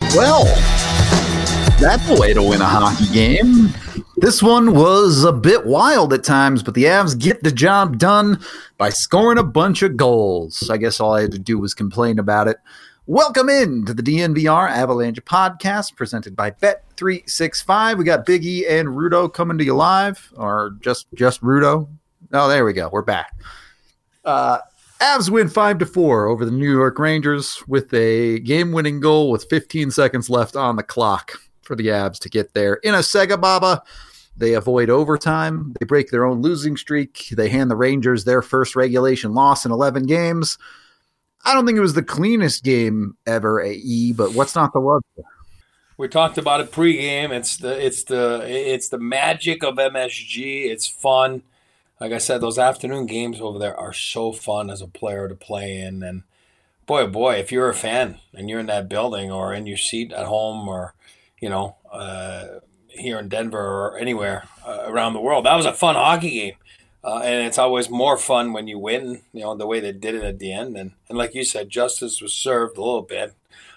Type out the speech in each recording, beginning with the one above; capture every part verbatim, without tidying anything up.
Well, that's a way to win a hockey game. This one was a bit wild at times, but the Avs get the job done by scoring a bunch of goals. I guess all I had to do was complain about it. Welcome in to the D N V R Avalanche podcast presented by Bet three sixty-five. We got Big E and Rudo coming to you live, or just just Rudo. Oh, there we go. We're back. Uh, Avs win five to four over the New York Rangers with a game-winning goal with fifteen seconds left on the clock for the Avs to get there. In a Sega Baba, they avoid overtime. They break their own losing streak. They hand the Rangers their first regulation loss in eleven games. I don't think it was the cleanest game ever, A E, but what's not to love? We talked about it pregame. It's the it's the it's the magic of M S G. It's fun. Like I said, those afternoon games over there are so fun as a player to play in. And boy, oh boy, if you're a fan and you're in that building or in your seat at home or, you know, uh, here in Denver or anywhere uh, around the world, that was a fun hockey game. Uh, and it's always more fun when you win, you know, the way they did it at the end. And, and like you said, justice was served a little bit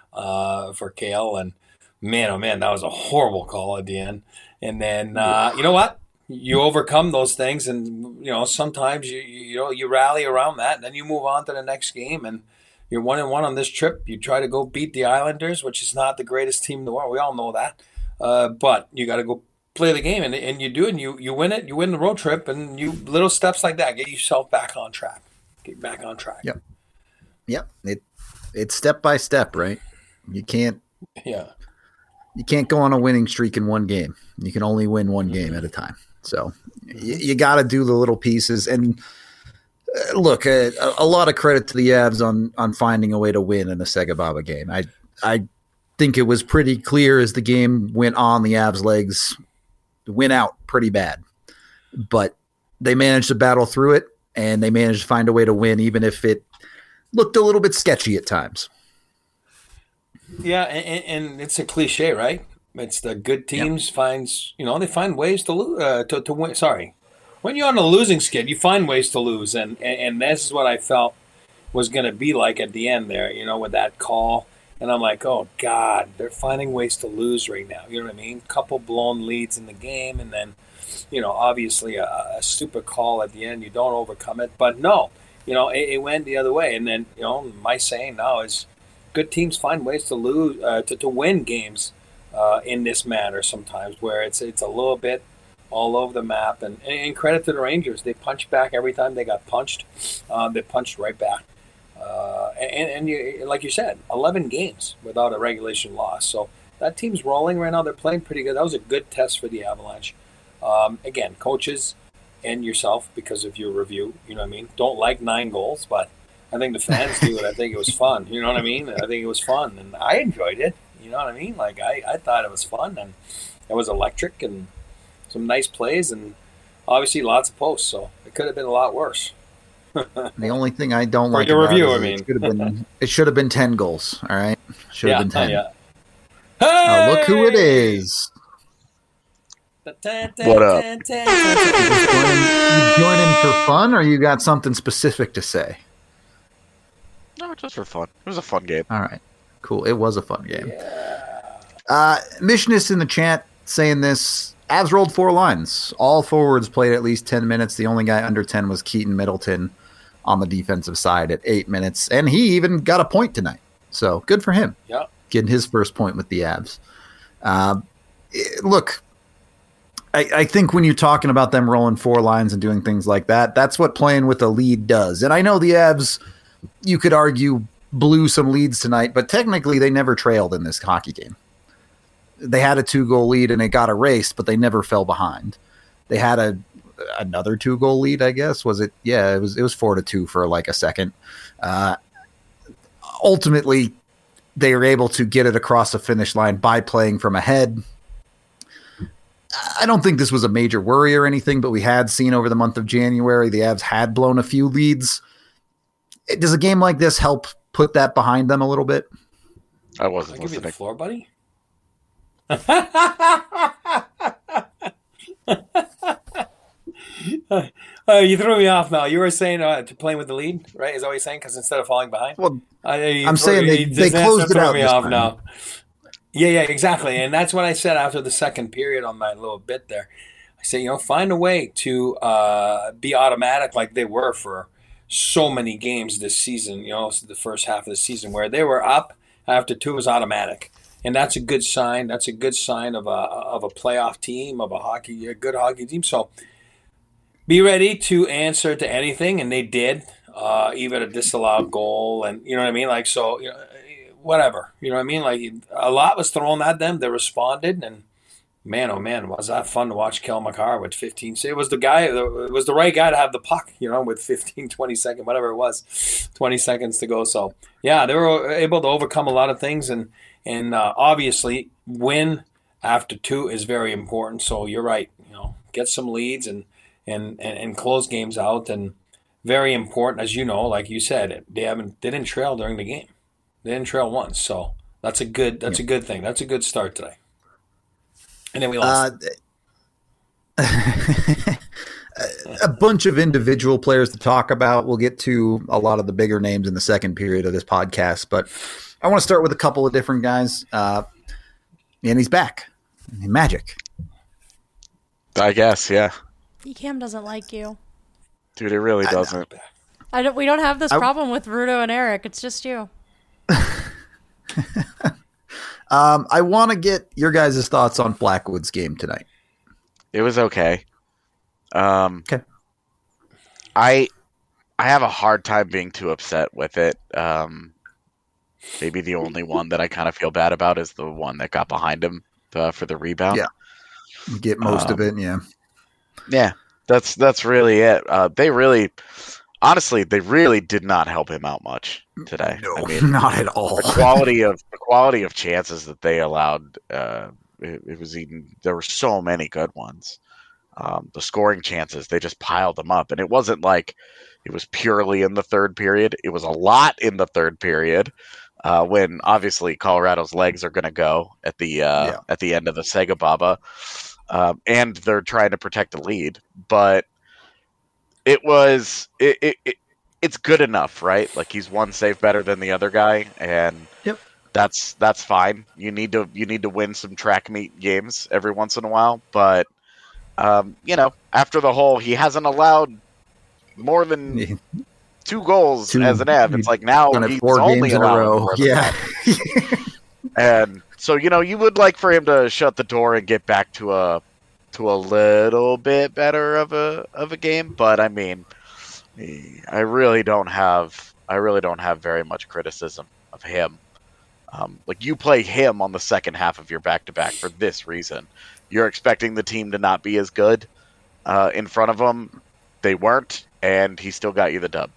uh, for Cale. And man, oh man, that was a horrible call at the end. And then, uh, you know what? You overcome those things, and you know sometimes you you know you rally around that, and then you move on to the next game, and you're one and one on this trip. You try to go beat the Islanders, which is not the greatest team in the world. We all know that, uh, but you got to go play the game, and and you do, and you you win it. You win the road trip, and you little steps like that get yourself back on track. Get back on track. Yep. Yep. It it's step by step, right? You can't. Yeah. You can't go on a winning streak in one game. You can only win one game at a time. So you, you got to do the little pieces. And uh, look, uh, a, a lot of credit to the Avs on on finding a way to win in a Sega Baba game. I I think it was pretty clear as the game went on, the Avs' legs went out pretty bad. But they managed to battle through it, and they managed to find a way to win, even if it looked a little bit sketchy at times. Yeah, and, and it's a cliche, right? It's the good teams yep. finds, you know, they find ways to lose, uh, to, to win. Sorry. When you're on a losing skid, you find ways to lose. And, and, and this is what I felt was going to be like at the end there, you know, with that call. And I'm like, oh, God, they're finding ways to lose right now. You know what I mean? Couple blown leads in the game. And then, you know, obviously a, a stupid call at the end. You don't overcome it. But no, you know, it, it went the other way. And then, you know, my saying now is good teams find ways to lose, uh, to, to win games. Uh, in this manner sometimes where it's it's a little bit all over the map. And, and credit to the Rangers. They punched back every time they got punched. Uh, they punched right back. Uh, and and you, like you said, eleven games without a regulation loss. So that team's rolling right now. They're playing pretty good. That was a good test for the Avalanche. Um, again, coaches and yourself, because of your review, you know what I mean, don't like nine goals, but I think the fans do it. I think it was fun. You know what I mean? I think it was fun. And I enjoyed it. You know what I mean? Like, I, I thought it was fun, and it was electric, and some nice plays, and obviously lots of posts, so it could have been a lot worse. The only thing I don't like your about review, it, I mean. it should have been it should have been ten goals, all right? Should have yeah, been ten. Yeah. Hey! Oh, look who it is. What up? You just joining, you joining for fun, or you got something specific to say? No, just for fun. It was a fun game. All right. Cool. It was a fun game. Yeah. Uh, Missionist in the chat saying this. Avs rolled four lines. All forwards played at least ten minutes. The only guy under ten was Keaton Middleton on the defensive side at eight minutes. And he even got a point tonight. So good for him. Yeah. Getting his first point with the Avs. Uh, it, look, I, I think when you're talking about them rolling four lines and doing things like that, that's what playing with a lead does. And I know the Avs, you could argue, blew some leads tonight, but technically they never trailed in this hockey game. They had a two-goal lead and it got erased, but they never fell behind. They had a another two-goal lead, I guess. Was it? Yeah, it was. It was four to two for like a second. Uh, ultimately, they were able to get it across the finish line by playing from ahead. I don't think this was a major worry or anything, but we had seen over the month of January the Avs had blown a few leads. Does a game like this help put that behind them a little bit? I wasn't I'll give you listening. the floor, buddy. uh, you threw me off now. You were saying uh, to playing with the lead, right? Is that what you're saying? Because instead of falling behind? Well, uh, I'm saying they, they closed it out me this off time. now. Yeah, yeah, exactly. And that's what I said after the second period on my little bit there. I said, you know, find a way to uh, be automatic like they were for so many games this season, you know, the first half of the season where they were up after two was automatic. And that's a good sign. That's a good sign of a of a playoff team, of a hockey, a good hockey team. So be ready to answer to anything, and they did, uh, even a disallowed goal, and you know what I mean. Like so, you know, whatever, you know what I mean. Like a lot was thrown at them. They responded, and man, oh man, was that fun to watch Kel McCarr with fifteen. It was the guy, it was the right guy to have the puck, you know, with fifteen, twenty seconds, whatever it was, twenty seconds to go. So yeah, they were able to overcome a lot of things, and and uh, obviously win after two is very important. So you're right, you know, get some leads and and and, and close games out, and very important, as you know, like you said, they haven't they didn't trail during the game, they didn't trail once. So that's a good that's yeah. a good thing. That's a good start today. And then we lost. Uh, a bunch of individual players to talk about. We'll get to a lot of the bigger names in the second period of this podcast, but I want to start with a couple of different guys. Uh, and he's back. Magic. I guess, yeah. Cam doesn't like you. Dude, it really doesn't. I don't, we don't have this I, problem with Rudo and Eric. It's just you. Um, I want to get your guys' thoughts on Blackwood's game tonight. It was okay. Um, okay. I I have a hard time being too upset with it. Um, maybe the only one that I kind of feel bad about is the one that got behind him uh, for the rebound. Yeah, you get most um, of it. Yeah, yeah. That's that's really it. Uh, they really, honestly, they really did not help him out much today. No, I mean, not at all. The quality of the quality of chances that they allowed, uh, it, it was even there were so many good ones. Um, the scoring chances, they just piled them up, and it wasn't like it was purely in the third period. It was a lot in the third period, uh, when obviously Colorado's legs are going to go at the uh, yeah. at the end of the Sega Baba, um, and they're trying to protect the lead, but. It was it, it, it it's good enough, right? Like he's one save better than the other guy, and yep. that's that's fine. You need to you need to win some track meet games every once in a while, but um, you know, after the whole, he hasn't allowed more than two goals two, as an Av. It's like now he's four only games in a row. Yeah, and so you know, you would like for him to shut the door and get back to a. to a little bit better of a of a game, but I mean, I really don't have I really don't have very much criticism of him. Um, like you play him on the second half of your back to back for this reason. You're expecting the team to not be as good uh, in front of them. They weren't, and he still got you the dub.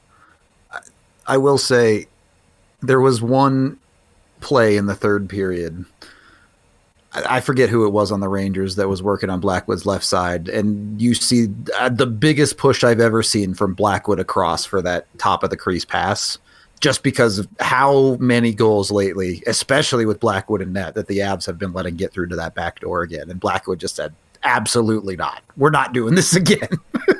I will say there was one play in the third period. I forget who it was on the Rangers that was working on Blackwood's left side, and you see the biggest push I've ever seen from Blackwood across for that top of the crease pass, just because of how many goals lately, especially with Blackwood and net, that the Avs have been letting get through to that back door again. And Blackwood just said, absolutely not. We're not doing this again.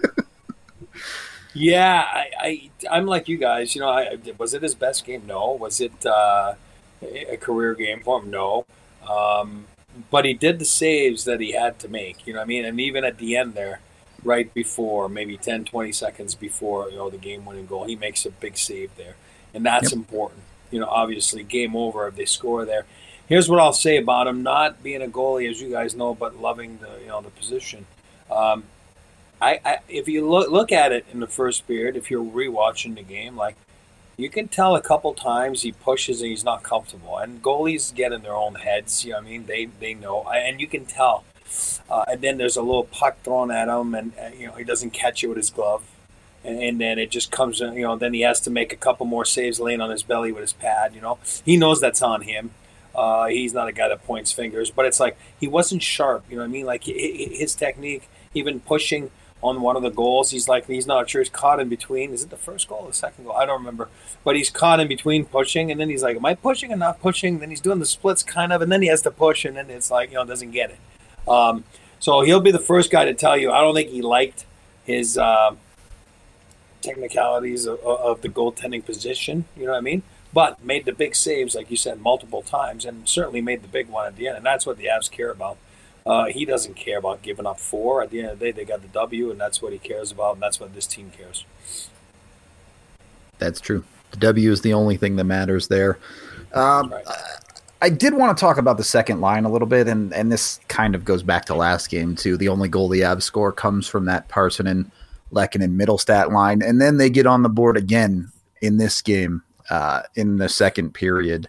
yeah, I, I, I'm like you guys. You know, I, was it his best game? No. Was it uh, a career game for him? No. Um, But he did the saves that he had to make, you know what I mean? And even at the end there, right before, maybe ten, twenty seconds before, you know, the game-winning goal, he makes a big save there. And that's yep. important. You know, obviously, game over if they score there. Here's what I'll say about him, not being a goalie, as you guys know, but loving the, you know, the position. Um, I, I if you look, look at it in the first period, if you're rewatching the game, like, you can tell a couple times he pushes and he's not comfortable. And goalies get in their own heads, you know what I mean? They they know. And you can tell. Uh, and then there's a little puck thrown at him, and, uh, you know, he doesn't catch it with his glove. And, and then it just comes, you know, then he has to make a couple more saves laying on his belly with his pad, you know. He knows that's on him. Uh, he's not a guy that points fingers. But it's like he wasn't sharp, you know what I mean? Like his technique, even pushing on one of the goals, he's like, he's not sure, he's caught in between. Is it the first goal or the second goal? I don't remember. But he's caught in between pushing, and then he's like, am I pushing or not pushing? Then he's doing the splits kind of, and then he has to push, and then it's like, you know, doesn't get it. Um, so he'll be the first guy to tell you, I don't think he liked his uh, technicalities of, of the goaltending position, you know what I mean? but made the big saves, like you said, multiple times, and certainly made the big one at the end. And that's what the Avs care about. Uh, he doesn't care about giving up four. At the end of the day, they got the W, and that's what he cares about, and that's what this team cares. That's true. The W is the only thing that matters there. Um, Right. I did want to talk about the second line a little bit, and, and this kind of goes back to last game, too. The only goal the Avs score comes from that Parssinen, Lehkonen, Middlestat line, and then they get on the board again in this game uh, in the second period.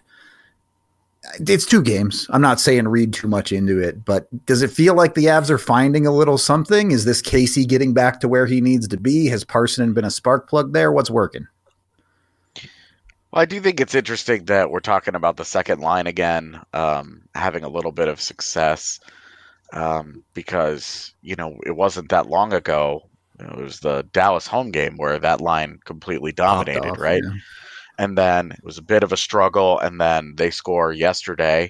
It's two games. I'm not saying read too much into it, but does it feel like the Avs are finding a little something? Is this Casey getting back to where he needs to be? Has Parssinen been a spark plug there? What's working? Well, I do think it's interesting that we're talking about the second line again, um, having a little bit of success, um, because, you know, it wasn't that long ago. It was the Dallas home game where that line completely dominated, off, right? yeah. And then it was a bit of a struggle, and then they score yesterday.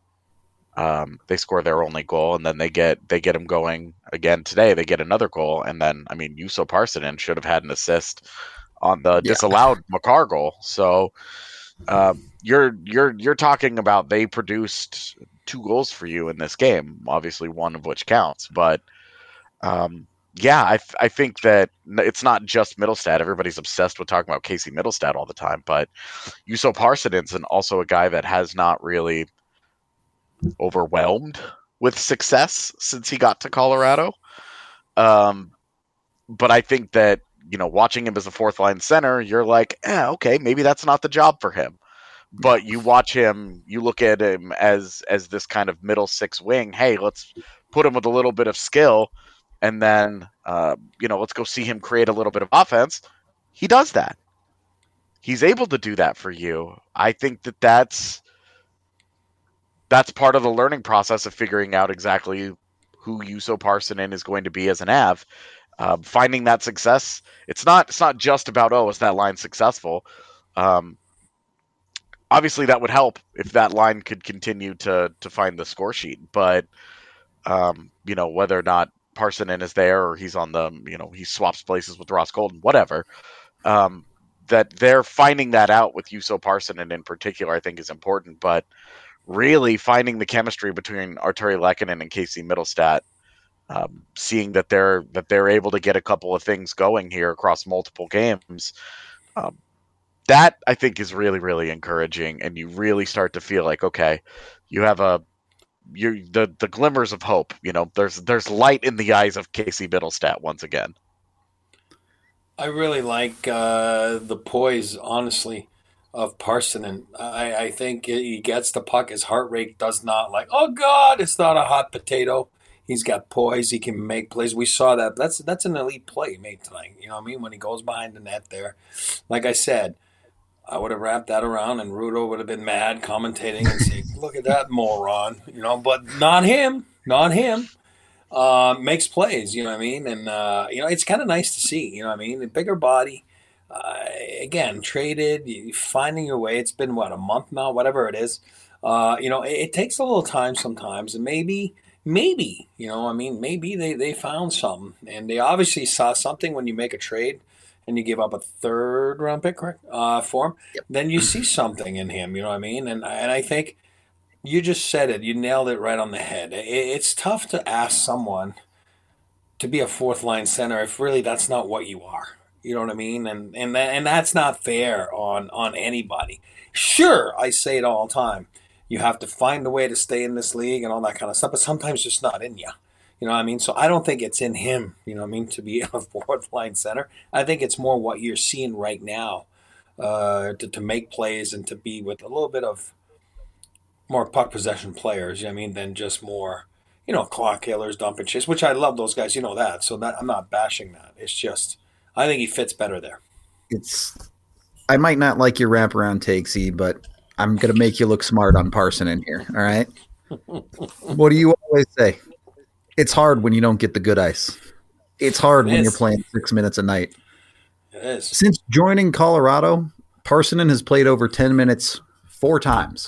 Um, they score their only goal, and then they get they get them going again today. They get another goal, and then, I mean, Juuso Parssinen should have had an assist on the Yeah. disallowed Makar goal. So uh, you're you're you're talking about they produced two goals for you in this game, obviously one of which counts. But um, yeah, I th- I think that it's not just Middlestat. Everybody's obsessed with talking about Casey Middlestat all the time, but Juuso Parssinen's and also a guy that has not really overwhelmed with success since he got to Colorado. Um, but I think that, you know, watching him as a fourth line center, you're like, eh, okay, maybe that's not the job for him. But you watch him, you look at him as as this kind of middle six wing. Hey, let's put him with a little bit of skill, and then uh, you know, let's go see him create a little bit of offense. He does that. He's able to do that for you. I think that that's that's part of the learning process of figuring out exactly who Juuso Parssinen is going to be as an Av. Um, finding that success, it's not it's not just about, oh, is that line successful? Um, obviously, that would help if that line could continue to to find the score sheet. But um, you know, whether or not Parssinen is there or he's on the, you know, he swaps places with Ross Colton, whatever. Um, that they're finding that out with Juuso Parssinen in particular, I think is important. But really finding the chemistry between Artturi Lehkonen and Casey Middlestat. Um, seeing that they're that they're able to get a couple of things going here across multiple games, um, that I think is really really encouraging, and you really start to feel like, okay, you have a you the the glimmers of hope. You know, there's there's light in the eyes of Casey Middlestat once again. I really like uh, the poise, honestly, of Parssinen. I, I think he gets the puck. His heart rate does not like, oh God, it's not a hot potato. He's got poise. He can make plays. We saw that. That's that's an elite play he made tonight. You know what I mean? When he goes behind the net there. Like I said, I would have wrapped that around and Rudo would have been mad commentating and saying, look at that moron. You know, but not him. Not him. Uh, makes plays, you know what I mean? And, uh, you know, it's kind of nice to see, you know what I mean? A bigger body. Uh, again, traded, you finding your way. It's been, what, a month now? Whatever it is. Uh, you know, it, it takes a little time sometimes. And maybe... Maybe, you know, I mean, maybe they, they found something. And they obviously saw something when you make a trade and you give up a third round pick, correct, uh, for him. Yep. Then you see something in him, you know what I mean? And, and I think you just said it. You nailed it right on the head. It, it's tough to ask someone to be a fourth line center if really that's not what you are. You know what I mean? And and that, and that's not fair on, on anybody. Sure, I say it all the time. You have to find a way to stay in this league and all that kind of stuff, but sometimes it's just not in you. You know what I mean? So I don't think it's in him, you know what I mean, to be a fourth line center. I think it's more what you're seeing right now uh, to, to make plays and to be with a little bit of more puck possession players, you know what I mean, than just more, you know, clock killers, dump and chase, which I love those guys, you know that. So that I'm not bashing that. It's just, I think he fits better there. It's, I might not like your wraparound takes, E, but I'm going to make you look smart on Parssinen here, all right? What do you always say? It's hard when you don't get the good ice. It's hard It when is. you're playing six minutes a night. It is. Since joining Colorado, Parssinen has played over ten minutes four times.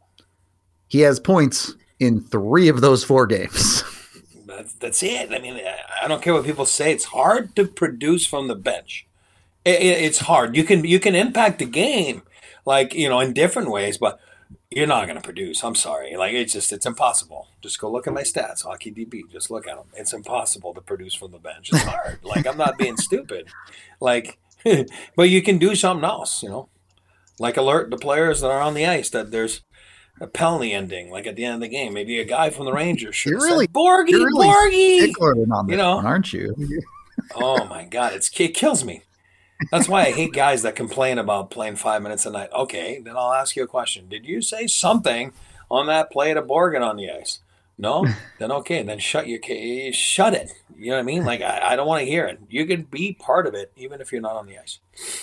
He has points in three of those four games. That's, that's it. I mean, I don't care what people say. It's hard to produce from the bench. It, it, it's hard. You can you can impact the game. like, you know, in different ways, but you're not going to produce. I'm sorry. Like, it's just, it's impossible. Just go look at my stats, Hockey D B. Just look at them. It's impossible to produce from the bench. It's hard. Like, I'm not being stupid. Like, but you can do something else, you know, like alert the players that are on the ice that there's a penalty ending, like at the end of the game. Maybe a guy from the Rangers should You're have really, said, Borgie, you're really Borgie. stickler on this You know? one, aren't you? Oh, my God. It's, it kills me. That's why I hate guys that complain about playing five minutes a night. Okay, then I'll ask you a question. Did you say something on that play to Borgen on the ice? No? Then okay, then shut your ca- shut it. You know what I mean? Like, I, I don't want to hear it. You can be part of it even if you're not on the ice.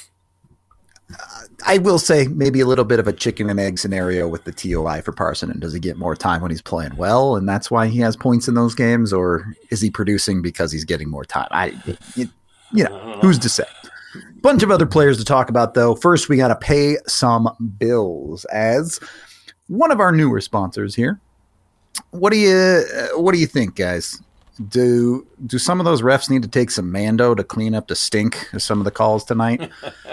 I will say maybe a little bit of a chicken and egg scenario with the T O I for Parsonen. Does he get more time when he's playing well, and that's why he has points in those games, or is he producing because he's getting more time? I, you, you know, who's to say? Bunch of other players to talk about, though. First, we got to pay some bills as one of our newer sponsors here. What do you uh, What do you think, guys? Do do some of those refs need to take some Mando to clean up the stink of some of the calls tonight?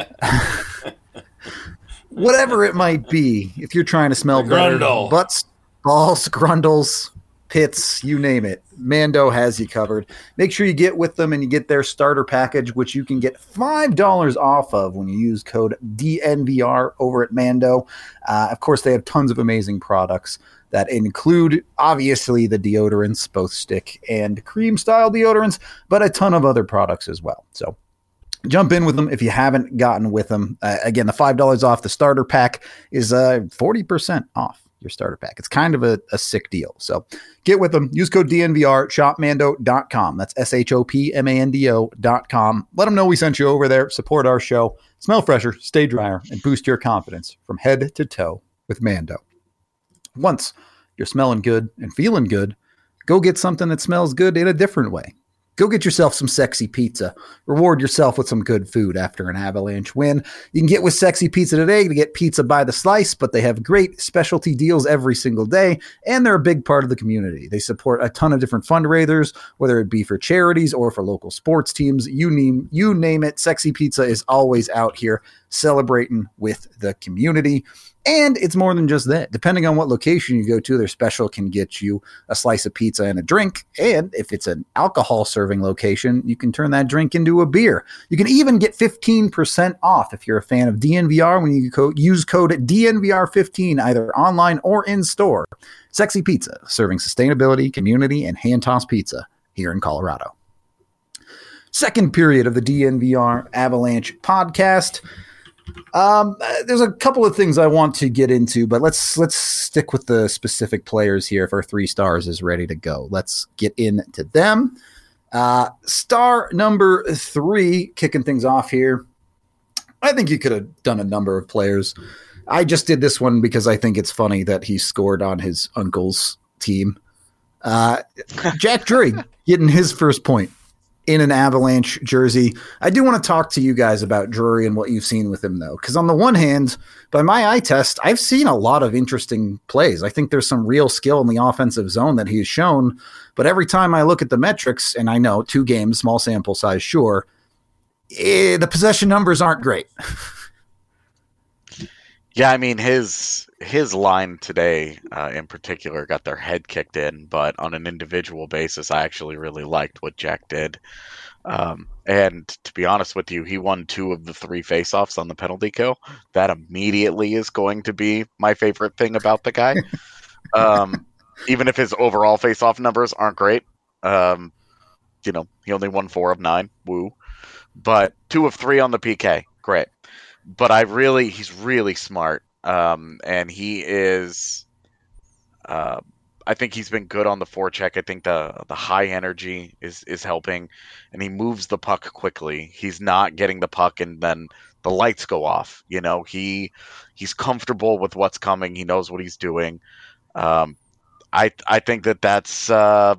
Whatever it might be, if you're trying to smell better, butts, balls, grundles, pits, you name it, Mando has you covered. Make sure you get with them and you get their starter package, which you can get five dollars off of when you use code D N V R over at Mando. Uh, of course, they have tons of amazing products that include, obviously, the deodorants, both stick and cream-style deodorants, but a ton of other products as well. So jump in with them if you haven't gotten with them. Uh, again, the five dollars off the starter pack is uh, forty percent off your starter pack. It's kind of a, a sick deal. So get with them. Use code D N V R, shop mando dot com. That's S H O P M A N D O dot com. Let them know we sent you over there. Support our show. Smell fresher, stay drier, and boost your confidence from head to toe with Mando. Once you're smelling good and feeling good, go get something that smells good in a different way. Go get yourself some Sexy Pizza. Reward yourself with some good food after an Avalanche win. You can get with Sexy Pizza today to get pizza by the slice, but they have great specialty deals every single day, and they're a big part of the community. They support a ton of different fundraisers, whether it be for charities or for local sports teams. You name, you name it, Sexy Pizza is always out here celebrating with the community. And it's more than just that. Depending on what location you go to, their special can get you a slice of pizza and a drink. And if it's an alcohol serving location, you can turn that drink into a beer. You can even get fifteen percent off if you're a fan of D N V R when you co- use code D N V R fifteen either online or in store. Sexy Pizza, serving sustainability, community, and hand-tossed pizza here in Colorado. Second period of the D N V R Avalanche podcast. Um, there's a couple of things I want to get into, but let's let's stick with the specific players here. If our three stars is ready to go, let's get into them. Uh, star number three, kicking things off here. I think you could have done a number of players. I just did this one because I think it's funny that he scored on his uncle's team. Uh, Jack Drury getting his first point in an Avalanche jersey. I do want to talk to you guys about Drury and what you've seen with him, though, because on the one hand, by my eye test, I've seen a lot of interesting plays. I think there's some real skill in the offensive zone that he's shown, but every time I look at the metrics, and I know two games, small sample size, sure, eh, the possession numbers aren't great. Yeah, I mean, his his line today uh, in particular got their head kicked in, but on an individual basis, I actually really liked what Jack did. Um, and to be honest with you, he won two of the three faceoffs on the penalty kill. That immediately is going to be my favorite thing about the guy. um, even if his overall faceoff numbers aren't great. Um, you know, he only won four of nine. Woo. But two of three on the P K. Great. But I really, he's really smart. Um, and he is, uh, I think he's been good on the forecheck. I think the the high energy is, is helping, and he moves the puck quickly. He's not getting the puck and then the lights go off. You know, he he's comfortable with what's coming. He knows what he's doing. Um, I I think that that's uh,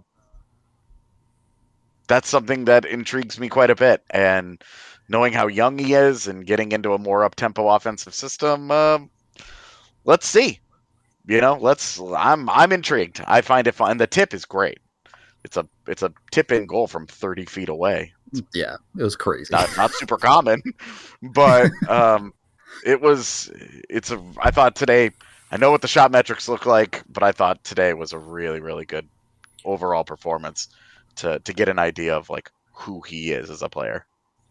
that's something that intrigues me quite a bit. And knowing how young he is and getting into a more up-tempo offensive system, uh, let's see. You know, let's. I'm I'm intrigued. I find it fun. And the tip is great. It's a it's a tip in goal from thirty feet away. Yeah, it was crazy. Not not super common, but um, it was. It's a. I thought today. I know what the shot metrics look like, but I thought today was a really, really good overall performance to to get an idea of like who he is as a player.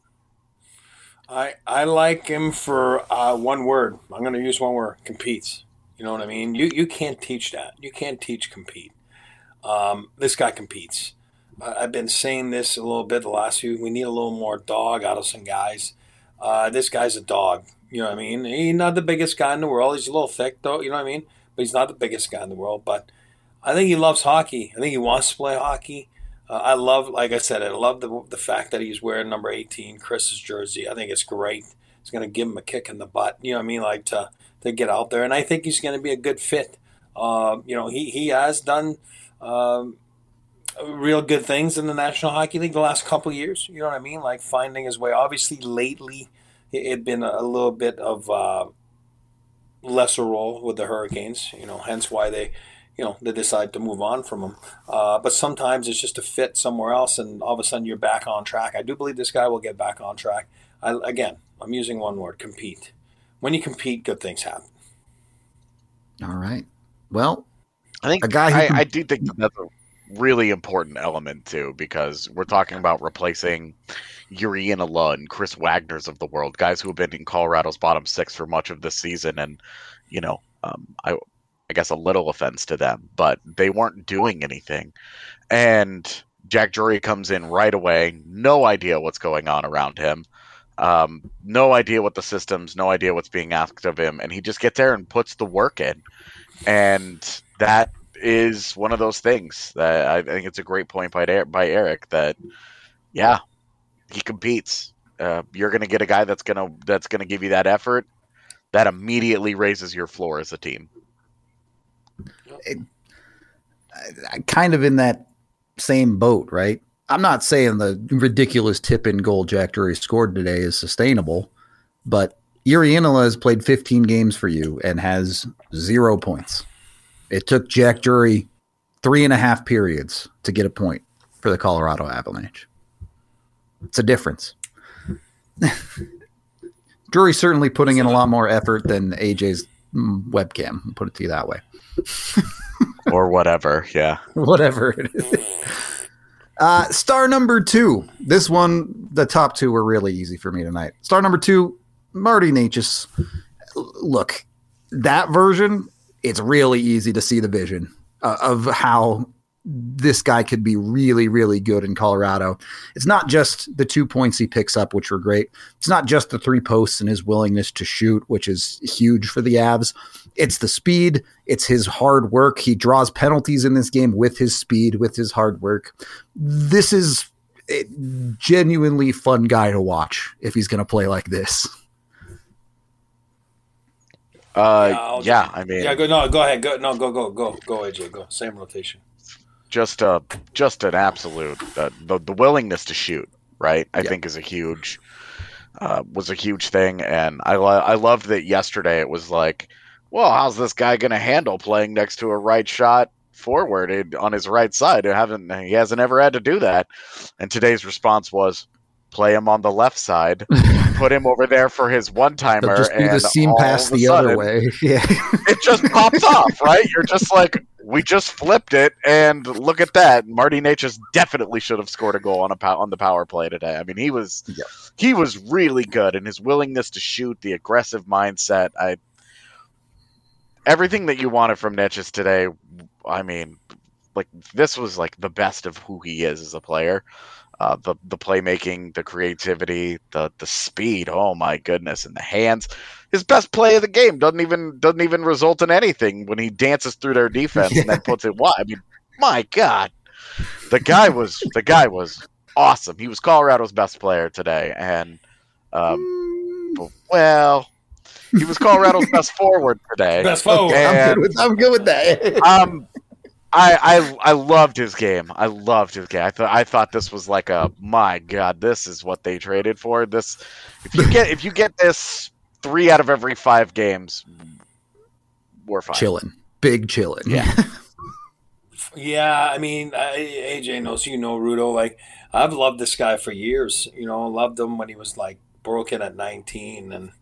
I I like him for uh, one word. I'm going to use one word: competes. You know what I mean? You you can't teach that. You can't teach compete. Um, this guy competes. Uh, I've been saying this a little bit the last few. We need a little more dog out of some guys. Uh, this guy's a dog. You know what I mean? He's not the biggest guy in the world. He's a little thick, though. You know what I mean? But he's not the biggest guy in the world. But I think he loves hockey. I think he wants to play hockey. Uh, I love, like I said, I love the the fact that he's wearing number eighteen, Chris's jersey. I think it's great. It's going to give him a kick in the butt. You know what I mean? Like to to get out there, and I think he's going to be a good fit. Uh, you know, he he has done um, real good things in the National Hockey League the last couple of years. You know what I mean? Like finding his way. Obviously, lately it had been a little bit of uh, lesser role with the Hurricanes. You know, hence why they, you know, they decide to move on from him. Uh, but sometimes it's just a fit somewhere else, and all of a sudden you're back on track. I do believe this guy will get back on track. I, again, I'm using one word: compete. When you compete, good things happen. All right. Well, I think a guy who I, can- I do think that that's a really important element too, because we're talking about replacing Yuri Inola and Chris Wagner's of the world, guys who have been in Colorado's bottom six for much of this season, and you know, um, I, I guess a little offense to them, but they weren't doing anything, and Jack Drury comes in right away, no idea what's going on around him. Um, no idea what the systems, no idea what's being asked of him, and he just gets there and puts the work in. And that is one of those things that I think it's a great point by by Eric that, yeah, he competes. Uh, you're going to get a guy that's going to that's going to give you that effort that immediately raises your floor as a team. I, kind of in that same boat, right? I'm not saying the ridiculous tip-in goal Jack Drury scored today is sustainable, but Yuri Inola has played fifteen games for you and has zero points. It took Jack Drury three and a half periods to get a point for the Colorado Avalanche. It's a difference. Drury's certainly putting in a lot more effort than A J's webcam. I'll put it to you that way. Or whatever, yeah. Whatever it is. Uh, star number two. This one, the top two were really easy for me tonight. Star number two, Marty Necas. Look, that version, it's really easy to see the vision uh, of how this guy could be really, really good in Colorado. It's not just the two points he picks up, which were great. It's not just the three posts and his willingness to shoot, which is huge for the Avs. It's the speed. It's his hard work. He draws penalties in this game with his speed, with his hard work. This is a genuinely fun guy to watch if he's going to play like this. Uh, yeah, yeah I mean, yeah. Go no, go ahead. Go no, go go go go. A J, go. Same rotation. Just a just an absolute uh, the the willingness to shoot, right? I yep. think is a huge uh, was a huge thing, and I lo- I loved that yesterday. It was like, well, how's this guy going to handle playing next to a right shot forward on his right side? Who haven't he hasn't ever had to do that, and today's response was, play him on the left side, put him over there for his one timer, just do and the seam pass the sudden, other way. Yeah, it just pops off, right? You're just like, we just flipped it, and look at that. Marty Necas definitely should have scored a goal on a pow- on the power play today. I mean, he was yeah. he was really good, and his willingness to shoot, the aggressive mindset, I everything that you wanted from Necas today. I mean, like this was like the best of who he is as a player. Uh, the the playmaking, the creativity, the the speed. Oh my goodness! And the hands. His best play of the game doesn't even doesn't even result in anything when he dances through their defense yeah. and then puts it wide. I mean, my God, the guy was the guy was awesome. He was Colorado's best player today, and um, well, he was Colorado's best forward today. Best forward. And, I'm, good with, I'm good with that. um. I, I I loved his game. I loved his game. I thought I thought this was like a my God. This is what they traded for. This if you get if you get this three out of every five games, we're fine. Chilling, big chilling. Yeah, yeah. I mean, I, A J knows you know Rudo. Like I've loved this guy for years. You know, loved him when he was like broken at nineteen, and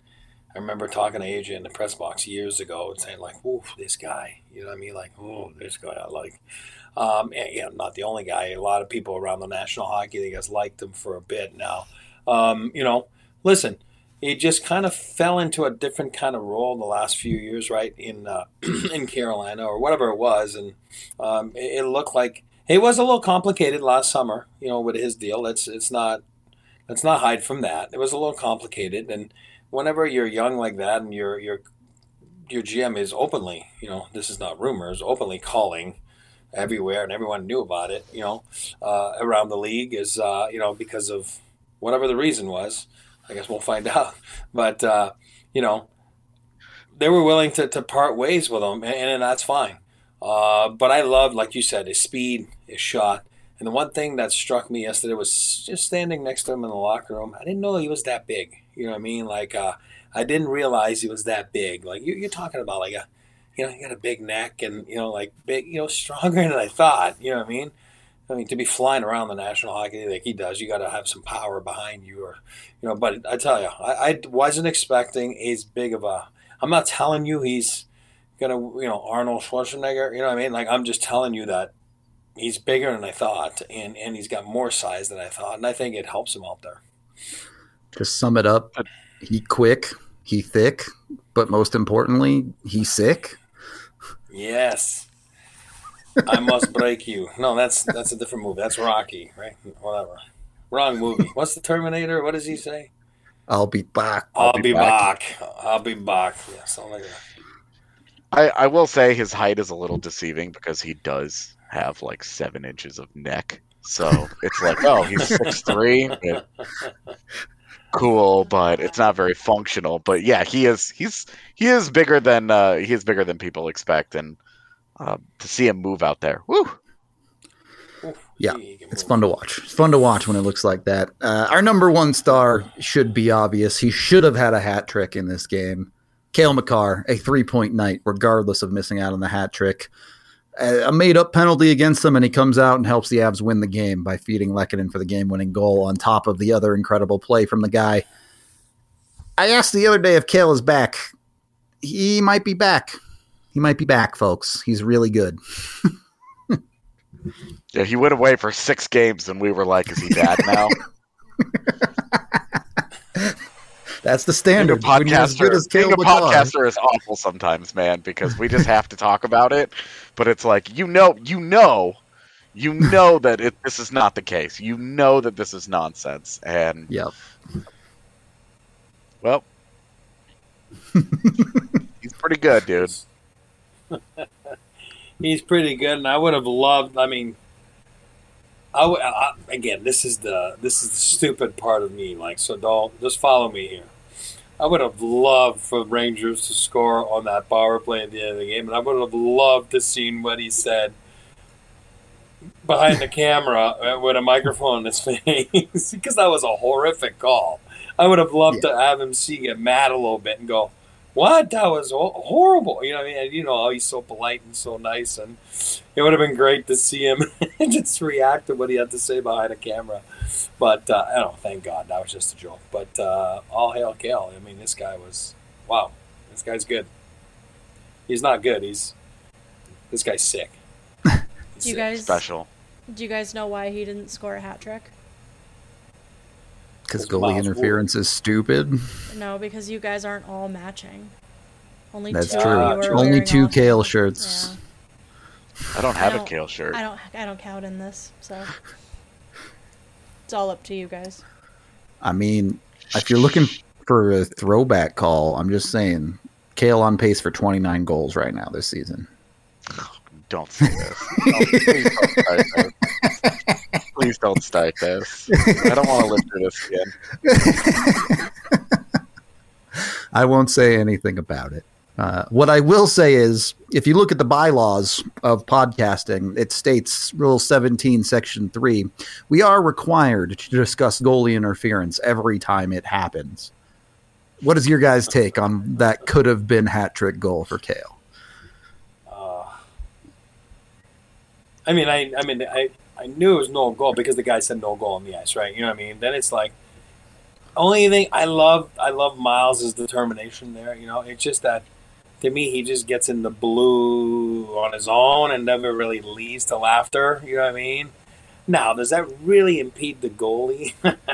I remember talking to A J in the press box years ago and saying like, "Oof, this guy," you know what I mean? Like, "Oh, this guy I like." Um, and, yeah, not the only guy. A lot of people around the National Hockey League has liked him for a bit now. Um, you know, listen, he just kind of fell into a different kind of role in the last few years, right? In uh, in Carolina or whatever it was, and um, it, it looked like it was a little complicated last summer. You know, with his deal, it's it's not let's not hide from that. It was a little complicated, and whenever you're young like that, and your your your G M is openly, you know, this is not rumors, openly calling everywhere, and everyone knew about it, you know, uh, around the league is, uh, you know, because of whatever the reason was. I guess we'll find out. But, uh, you know, they were willing to, to part ways with him, and, and that's fine. Uh, but I loved, like you said, his speed, his shot. And the one thing that struck me yesterday was just standing next to him in the locker room. I didn't know he was that big. You know what I mean? Like, uh, I didn't realize he was that big. Like, you, you're talking about, like, a, you know, you got a big neck and, you know, like, big, you know, stronger than I thought. You know what I mean? I mean, to be flying around the National Hockey League like he does, you got to have some power behind you, or, you know. But I tell you, I, I wasn't expecting as big of a. I'm not telling you he's gonna, you know, Arnold Schwarzenegger. You know what I mean? Like, I'm just telling you that he's bigger than I thought, and and he's got more size than I thought, and I think it helps him out there. Just sum it up: he quick, he thick, but most importantly, he sick. Yes. I must break you. No, that's that's a different movie. That's Rocky, right? Whatever. Wrong movie. What's the Terminator? What does he say? I'll be back. I'll, I'll be, be back. back. I'll be back. Yeah, something like that. I, I will say his height is a little deceiving because he does have like seven inches of neck. So it's like, oh, he's six three. Cool, but it's not very functional. But yeah, he is he's he is bigger than uh, he is bigger than people expect, and Uh, to see him move out there. Woo! Yeah, it's fun to watch. It's fun to watch when it looks like that. Uh, our number one star should be obvious. He should have had a hat trick in this game. Cale Makar, a three-point night, regardless of missing out on the hat trick. A made-up penalty against him, and he comes out and helps the Avs win the game by feeding Lehkonen for the game-winning goal on top of the other incredible play from the guy. I asked the other day if Cale is back. He might be back. He might be back, folks. He's really good. Yeah, he went away for six games, and we were like, is he bad now? That's the standard. Being a podcaster, being a podcaster is awful sometimes, man, because we just have to talk about it. But it's like, you know, you know, you know that it, this is not the case. You know that this is nonsense. And, yep. Well, he's pretty good, dude. He's pretty good, and I would have loved. I mean, I, w- I again, this is the this is the stupid part of me. Like, so don't just follow me here. I would have loved for Rangers to score on that power play at the end of the game, and I would have loved to seen what he said behind the camera with a microphone in his face, because that was a horrific call. I would have loved yeah. to have him see get mad a little bit and go, what? That was horrible. You know, I mean, and you know how he's so polite and so nice, and it would have been great to see him just react to what he had to say behind a camera. But uh, I don't know, thank God, that was just a joke. But uh, all hail Cale. I mean, this guy was wow. This guy's good. He's not good. He's this guy's sick. He's do you sick. guys special? Do you guys know why he didn't score a hat trick? Because goalie interference is stupid. No, because you guys aren't all matching. Only That's two true. of you are Only wearing two all- Cale shirts. Yeah. I don't have I a don't- Cale shirt. I don't. I don't count in this, so it's all up to you guys. I mean, if you're looking for a throwback call, I'm just saying, Cale on pace for twenty-nine goals right now this season. Don't say this. Don't, please don't start this. Please don't start this. I don't want to live through this again. I won't say anything about it. Uh, what I will say is, if you look at the bylaws of podcasting, it states Rule seventeen, Section three, we are required to discuss goalie interference every time it happens. What is your guys' take on that could have been hat trick goal for Cale? Uh, I mean, I, I mean, I, I knew it was no goal because the guy said no goal on the ice, right? You know what I mean? Then it's like, only thing I love, I love Miles' determination there. You know, it's just that to me, he just gets in the blue on his own and never really leads to laughter. You know what I mean? Now, does that really impede the goalie?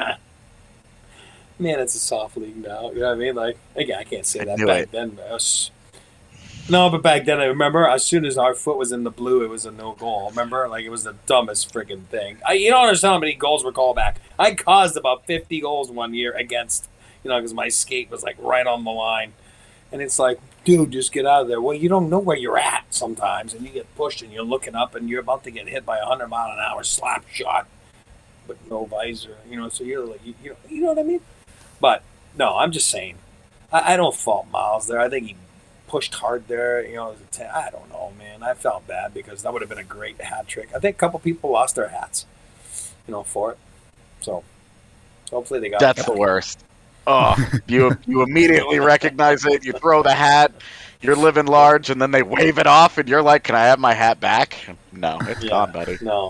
Man, it's a soft league now. You know what I mean? Like, again, I can't say that back it. then. Was, no, but back then, I remember as soon as our foot was in the blue, it was a no goal. Remember? Like, it was the dumbest freaking thing. I, you don't understand how many goals were called back. I caused about fifty goals one year against, you know, because my skate was, like, right on the line. And it's like, dude, just get out of there. Well, you don't know where you're at sometimes, and you get pushed, and you're looking up, and you're about to get hit by a hundred mile an hour slap shot, but no visor. You know, so you're like, you, you know, you know what I mean? But no, I'm just saying, I, I don't fault Miles there. I think he pushed hard there. You know, it was a ten, I don't know, man. I felt bad because that would have been a great hat trick. I think a couple people lost their hats, you know, for it. So hopefully they got. That's the worst. Oh, you you immediately recognize it. You throw the hat. You're living large, and then they wave it off, and you're like, "Can I have my hat back?" No, it's yeah, gone, buddy. No.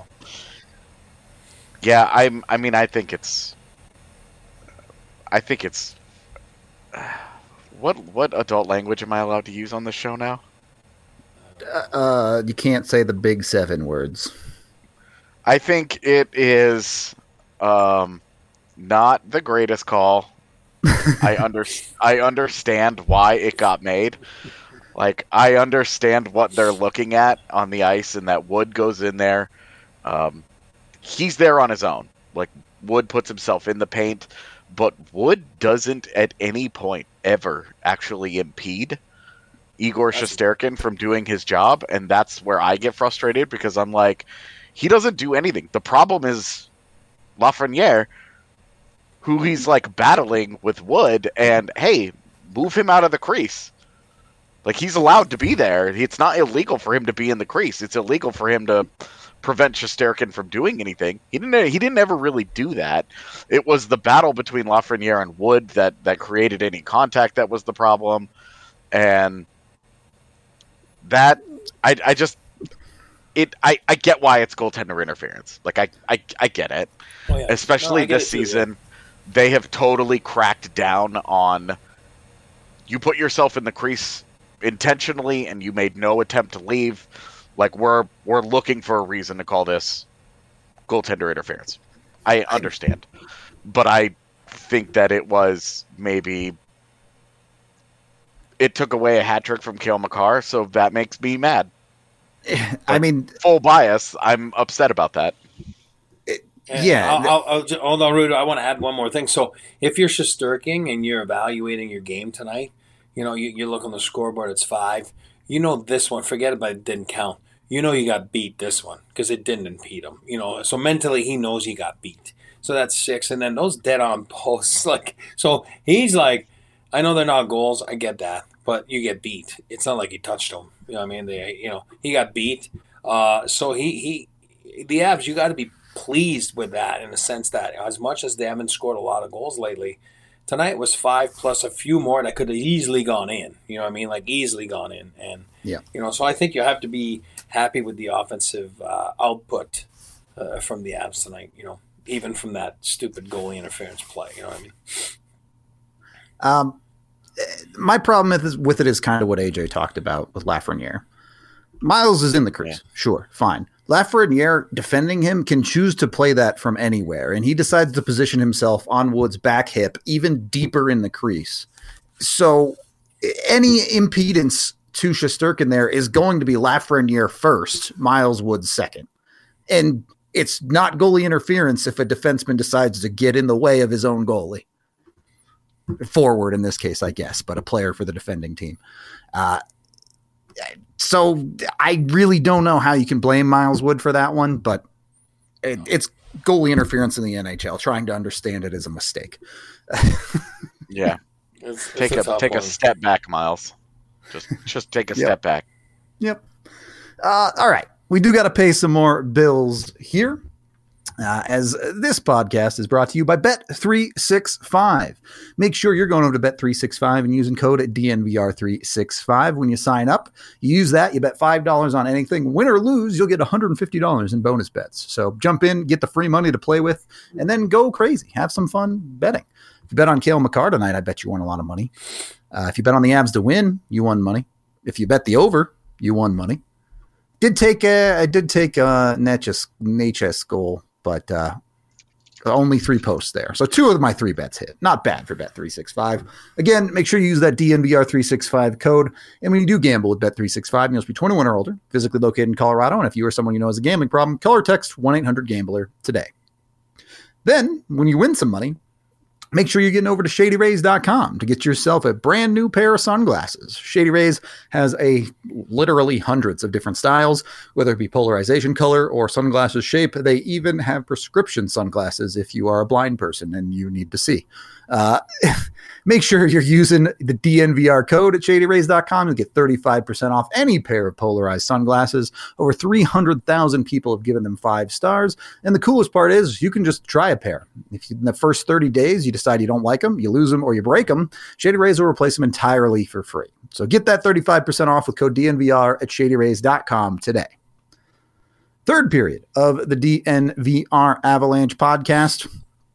Yeah, I'm. I mean, I think it's. I think it's. Uh, what what adult language am I allowed to use on this show now? Uh, you can't say the big seven words. I think it is, um, not the greatest call. I under I understand why it got made. Like, I understand what they're looking at on the ice, and that Wood goes in there. Um, he's there on his own. Like, Wood puts himself in the paint, but Wood doesn't at any point ever actually impede Igor Shesterkin from doing his job, and that's where I get frustrated because I'm like, he doesn't do anything. The problem is Lafreniere, who he's like battling with Wood, and hey, move him out of the crease. Like, he's allowed to be there. It's not illegal for him to be in the crease. It's illegal for him to prevent Shesterkin from doing anything. He didn't. He didn't ever really do that. It was the battle between Lafreniere and Wood that that created any contact that was the problem, and that I I just it I, I get why it's goaltender interference. Like I I, I get it, oh, yeah. especially no, this season. Too, yeah. They have totally cracked down on you put yourself in the crease intentionally and you made no attempt to leave. Like, we're we're looking for a reason to call this goaltender interference. I understand. But I think that it was maybe it took away a hat trick from Cale Makar, so that makes me mad. I but mean, full bias. I'm upset about that. And yeah. I'll, I'll, I'll, just, hold on, Rudy. I want to add one more thing. So if you're Shesterkin and you're evaluating your game tonight, you know, you, you look on the scoreboard, it's five. You know this one, forget about it, didn't count. You know you got beat this one because it didn't impede him. You know, so mentally he knows he got beat. So that's six. And then those dead-on posts, like, so he's like, I know they're not goals. I get that. But you get beat. It's not like he touched them. You know what I mean? They, you know, he got beat. Uh, so he, he, the Avs, you got to be pleased with that in the sense that as much as they haven't scored a lot of goals lately, tonight was five plus a few more that could have easily gone in. You know what I mean? Like, easily gone in. And, yeah. you know, so I think you have to be happy with the offensive uh, output uh, from the Avs tonight, you know, even from that stupid goalie interference play. You know what I mean? Um, my problem with, is, with it is kind of what A J talked about with Lafreniere. Miles is in the crease. Yeah. Sure, fine. Lafreniere defending him can choose to play that from anywhere, and he decides to position himself on Wood's back hip even deeper in the crease. So any impedance to Shesterkin there is going to be Lafreniere first, Miles Wood second. And it's not goalie interference if a defenseman decides to get in the way of his own goalie. Forward in this case, I guess, but a player for the defending team. Uh, So I really don't know how you can blame Miles Wood for that one, but it, it's goalie interference in the N H L. Trying to understand it is a mistake. yeah, it's, take it's a, a take one. a step back, Miles. Just just take a yep. step back. Yep. Uh, all right, we do got to pay some more bills here. Uh, as this podcast is brought to you by Bet three sixty-five. Make sure you're going over to Bet three sixty-five and using code D N V R three sixty-five when you sign up. You use that, you bet five dollars on anything. Win or lose, you'll get one hundred fifty dollars in bonus bets. So jump in, get the free money to play with, and then go crazy. Have some fun betting. If you bet on Cale Makar tonight, I bet you won a lot of money. Uh, if you bet on the Avs to win, you won money. If you bet the over, you won money. Did take a, I did take a Natchez, Natchez goal, but uh, only three posts there. So two of my three bets hit. Not bad for Bet three sixty-five. Again, make sure you use that D N V R three sixty-five code. And when you do gamble with Bet three sixty-five, you must be twenty-one or older, physically located in Colorado. And if you or someone you know has a gambling problem, call or text one eight hundred gambler today. Then, when you win some money, make sure you're getting over to shady rays dot com to get yourself a brand new pair of sunglasses. Shady Rays has a literally hundreds of different styles, whether it be polarization color or sunglasses shape. They even have prescription sunglasses if you are a blind person and you need to see. Uh, make sure you're using the D N V R code at shady rays dot com to get thirty-five percent off any pair of polarized sunglasses. Over three hundred thousand people have given them five stars. And the coolest part is you can just try a pair. If you, in the first thirty days you decide you don't like them, you lose them, or you break them, Shady Rays will replace them entirely for free. So get that thirty-five percent off with code D N V R at shady rays dot com today. Third period of the D N V R Avalanche podcast.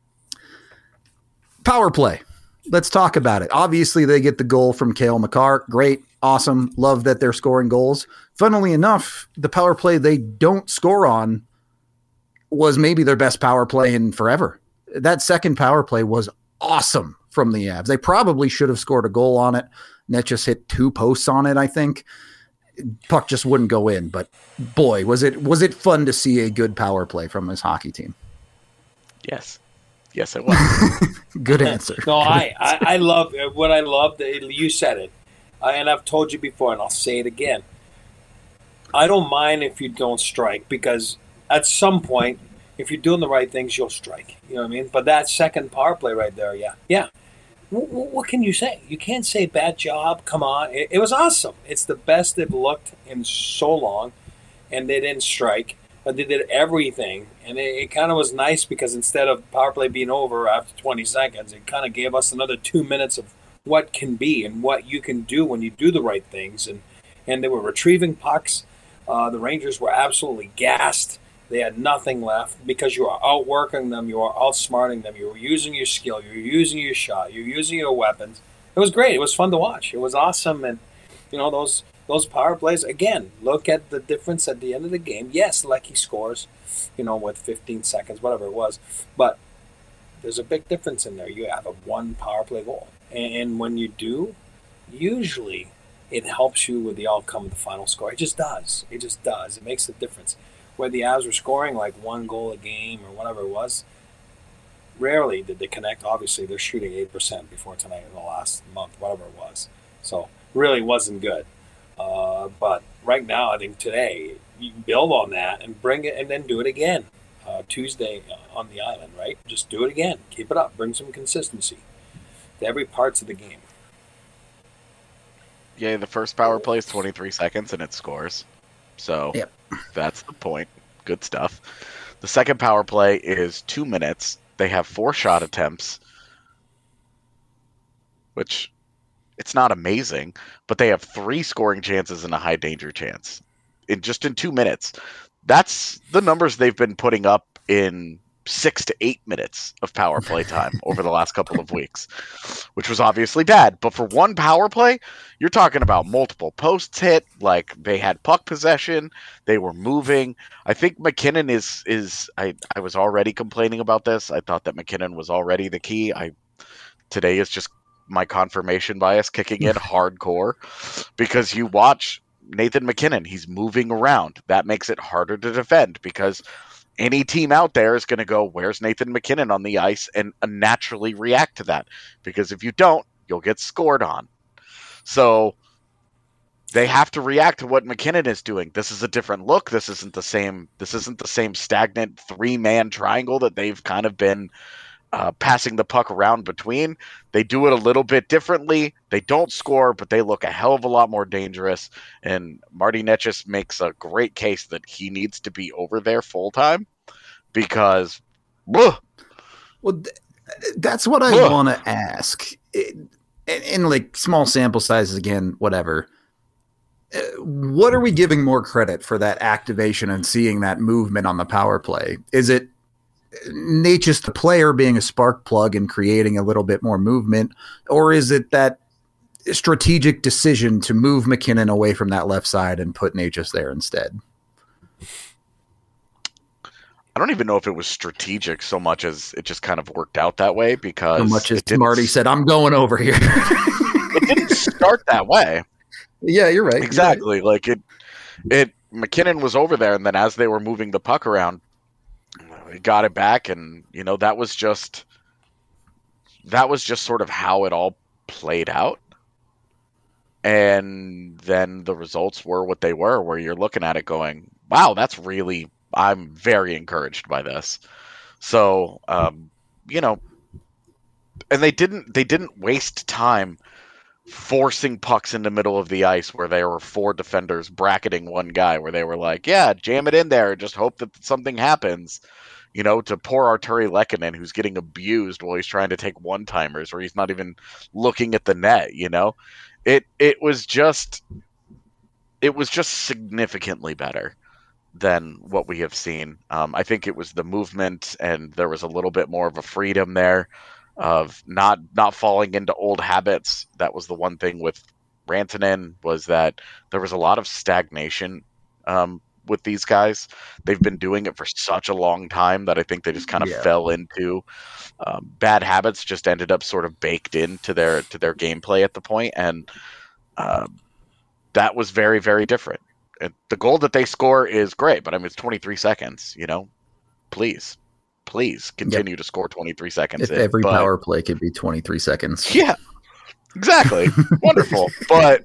Power play. Let's talk about it. Obviously, they get the goal from Cale Makar. Great. Awesome. Love that they're scoring goals. Funnily enough, the power play they don't score on was maybe their best power play in forever. That second power play was awesome from the Avs. They probably should have scored a goal on it. Net just hit two posts on it, I think. Puck just wouldn't go in. But boy, was it was it fun to see a good power play from this hockey team. Yes. Yes, it was. Good answer. No, I, I, I love what I love. You said it, uh, and I've told you before, and I'll say it again. I don't mind if you don't strike, because at some point, if you're doing the right things, you'll strike. You know what I mean? But that second power play right there, yeah, yeah. W- w- what can you say? You can't say bad job. Come on, it, it was awesome. It's the best they've looked in so long, and they didn't strike. But they did everything, and it, it kind of was nice because instead of power play being over after twenty seconds, it kind of gave us another two minutes of what can be and what you can do when you do the right things. And, and they were retrieving pucks. Uh, the Rangers were absolutely gassed. They had nothing left because you are outworking them, you are outsmarting them, you were using your skill, you're using your shot, you're using your weapons. It was great. It was fun to watch. It was awesome, and you know those. Those power plays, again, look at the difference at the end of the game. Yes, Lecky scores, you know, with fifteen seconds, whatever it was. But there's a big difference in there. You have a one power play goal. And when you do, usually it helps you with the outcome of the final score. It just does. It just does. It makes a difference. Where the Avs were scoring like one goal a game or whatever it was, rarely did they connect. Obviously, they're shooting eight percent before tonight in the last month, whatever it was. So really wasn't good. Uh, but right now, I think today, you can build on that and bring it and then do it again. Uh, Tuesday on the island, right? Just do it again. Keep it up. Bring some consistency to every parts of the game. Yeah, the first power play is twenty-three seconds and it scores. So yep. That's the point. Good stuff. The second power play is two minutes. They have four shot attempts, which... it's not amazing, but they have three scoring chances and a high danger chance in just in two minutes. That's the numbers they've been putting up in six to eight minutes of power play time over the last couple of weeks, which was obviously bad. But for one power play, you're talking about multiple posts hit. Like they had puck possession, they were moving. I think McKinnon is is. I I was already complaining about this. I thought that McKinnon was already the key. I today is just my confirmation bias kicking in hardcore, because you watch Nathan McKinnon, he's moving around. That makes it harder to defend because any team out there is going to go, where's Nathan McKinnon on the ice, and naturally react to that, because if you don't, you'll get scored on. So they have to react to what McKinnon is doing. This is a different look. This isn't the same. This isn't the same stagnant three-man triangle that they've kind of been Uh, passing the puck around between. They do it a little bit differently. They don't score, but they look a hell of a lot more dangerous. And Marty Necas makes a great case that he needs to be over there full time because, ugh, well, th- that's what I want to ask. In, in like small sample sizes, again, whatever. Uh, what are we giving more credit for that activation and seeing that movement on the power play? Is it Necas the player being a spark plug and creating a little bit more movement, or is it that strategic decision to move McKinnon away from that left side and put Necas there instead? I don't even know if it was strategic so much as it just kind of worked out that way, because So much as it didn't- Marty said, I'm going over here. it didn't start that way. Yeah, you're right. Exactly. You're right. Like it, it. McKinnon was over there, and then as they were moving the puck around, he got it back, and you know that was just that was just sort of how it all played out. And then the results were what they were, where you're looking at it going, "Wow, that's really." I'm very encouraged by this. So, um, you know, and they didn't they didn't waste time forcing pucks in the middle of the ice where there were four defenders bracketing one guy, where they were like, yeah, jam it in there, just hope that something happens, you know, to poor Arturi Lehkonen, who's getting abused while he's trying to take one-timers, or he's not even looking at the net, you know? It it was just it was just significantly better than what we have seen. Um, I think it was the movement, and there was a little bit more of a freedom there of not not falling into old habits. That was the one thing with Rantanen, was that there was a lot of stagnation um, with these guys. They've been doing it for such a long time that I think they just kind of Yeah. fell into um, bad habits, just ended up sort of baked into their to their gameplay at the point, and um, that was very, very different. And the goal that they score is great, but I mean, it's twenty-three seconds, you know, please, please continue yep. to score twenty-three seconds. If in. every but, power play could be twenty-three seconds. Yeah, exactly. Wonderful. But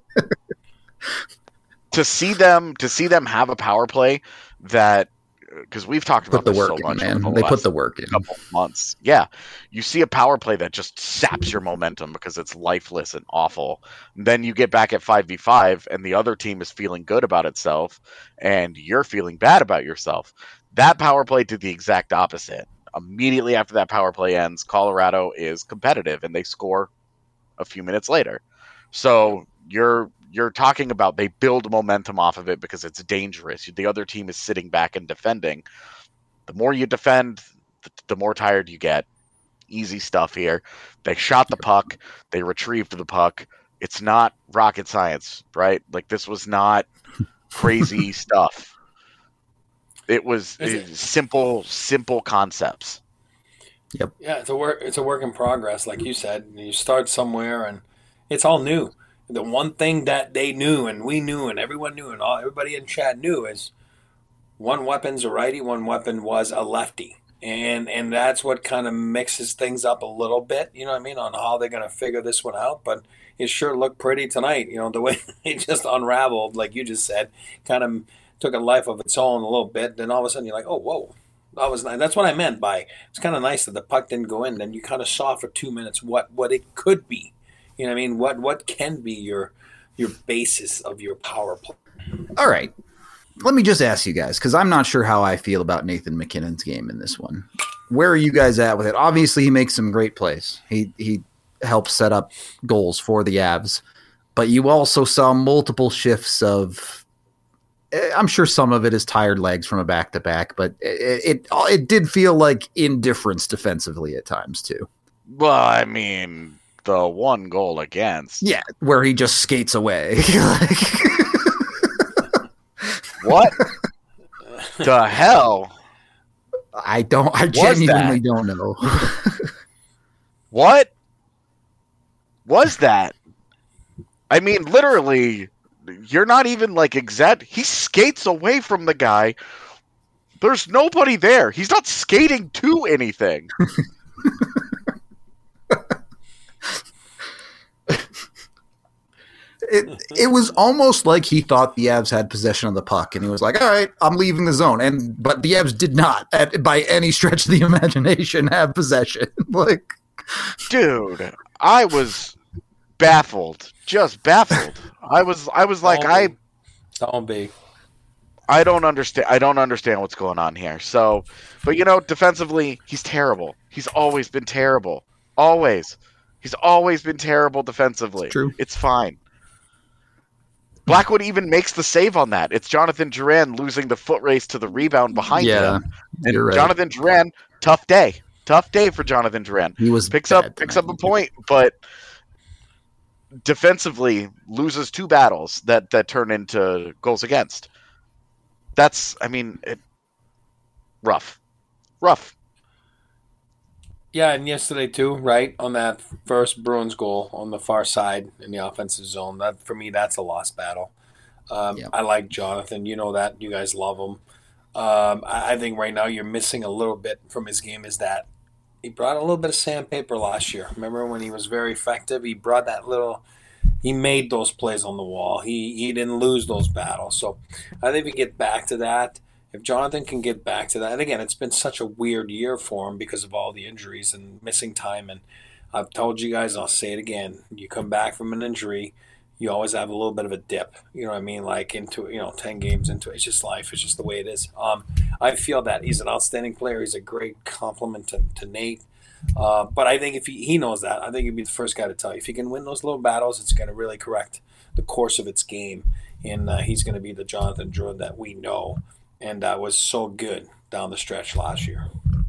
to see them, to see them have a power play that, because we've talked about put the this work so in, much, man. the They last put the work in. Couple months, yeah. You see a power play that just saps your momentum because it's lifeless and awful. Then you get back at five v five, and the other team is feeling good about itself, and you're feeling bad about yourself. That power play did the exact opposite. Immediately after that power play ends, Colorado is competitive, and they score a few minutes later. So you're you're talking about they build momentum off of it because it's dangerous. The other team is sitting back and defending. The more you defend, the, the more tired you get. Easy stuff here. They shot the puck. They retrieved the puck. It's not rocket science, right? Like, this was not crazy stuff. It was it, simple, simple concepts. Yep. Yeah, it's a work. It's a work in progress, like you said. You start somewhere, and it's all new. The one thing that they knew, and we knew, and everyone knew, and all everybody in chat knew, is one weapon's a righty, one weapon was a lefty, and and that's what kind of mixes things up a little bit. You know what I mean, on how they're going to figure this one out. But it sure looked pretty tonight. You know, the way it just unraveled, like you just said, kind of took a life of its own a little bit. Then all of a sudden, you're like, oh, whoa. That was nice. That's what I meant by it's kind of nice that the puck didn't go in. Then you kind of saw for two minutes what, what it could be. You know what I mean? What what can be your your basis of your power play? All right. Let me just ask you guys, because I'm not sure how I feel about Nathan McKinnon's game in this one. Where are you guys at with it? Obviously, he makes some great plays. He he helps set up goals for the Avs. But you also saw multiple shifts of I'm sure some of it is tired legs from a back-to-back, but it, it it did feel like indifference defensively at times, too. Well, I mean, the one goal against. Yeah, where he just skates away. What the hell? I don't, I genuinely don't know. What was that? I mean, literally... You're not even like exact. He skates away from the guy. There's nobody there. He's not skating to anything. it it was almost like he thought the Avs had possession of the puck, and he was like, "All right, I'm leaving the zone." And but the Avs did not, at, by any stretch of the imagination, have possession. Like, dude, I was baffled. Just baffled. I was I was like don't I be. don't be. I don't understand I don't understand what's going on here. So, but you know, defensively, he's terrible. He's always been terrible. Always. He's always been terrible defensively. True. It's fine. Blackwood even makes the save on that. It's Jonathan Duran losing the foot race to the rebound behind Yeah, him. And you're right. Jonathan Duran, tough day. Tough day for Jonathan Duran. He was picks bad up picks tonight. up a point, but defensively loses two battles that, that turn into goals against. That's, I mean, it, rough. Rough. Yeah, and yesterday too, right, on that first Bruins goal on the far side in the offensive zone. That for me, that's a lost battle. Um, Yep. I like Jonathan. You know that. You guys love him. Um, I, I think right now you're missing a little bit from his game is that he brought a little bit of sandpaper last year. Remember when he was very effective? He brought that little – he made those plays on the wall. He he didn't lose those battles. So I think if we get back to that, if Jonathan can get back to that, and again, it's been such a weird year for him because of all the injuries and missing time. And I've told you guys, I'll say it again. You come back from an injury, you always have a little bit of a dip. You know what I mean? Like into, you know, ten games into it. It's just life. It's just the way it is. Um, I feel that he's an outstanding player. He's a great compliment to, to Nate. Uh, but I think if he, he knows that, I think he'd be the first guy to tell you. If he can win those little battles, it's going to really correct the course of its game. And uh, he's going to be the Jonathan Druid that we know. And uh, was so good down the stretch last year.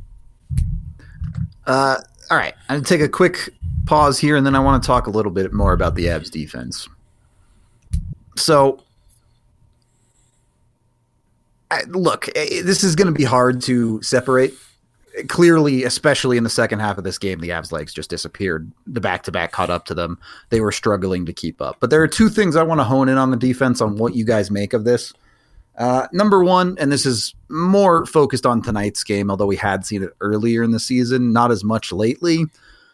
Uh, all right. I'm going to take a quick pause here, and then I want to talk a little bit more about the Avs defense. So, I- look, eh, this is going to be hard to separate. Clearly, especially in the second half of this game, the Avs' legs just disappeared. The back-to-back caught up to them. They were struggling to keep up. But there are two things I want to hone in on the defense on what you guys make of this. Uh, number one, and this is more focused on tonight's game, although we had seen it earlier in the season, not as much lately.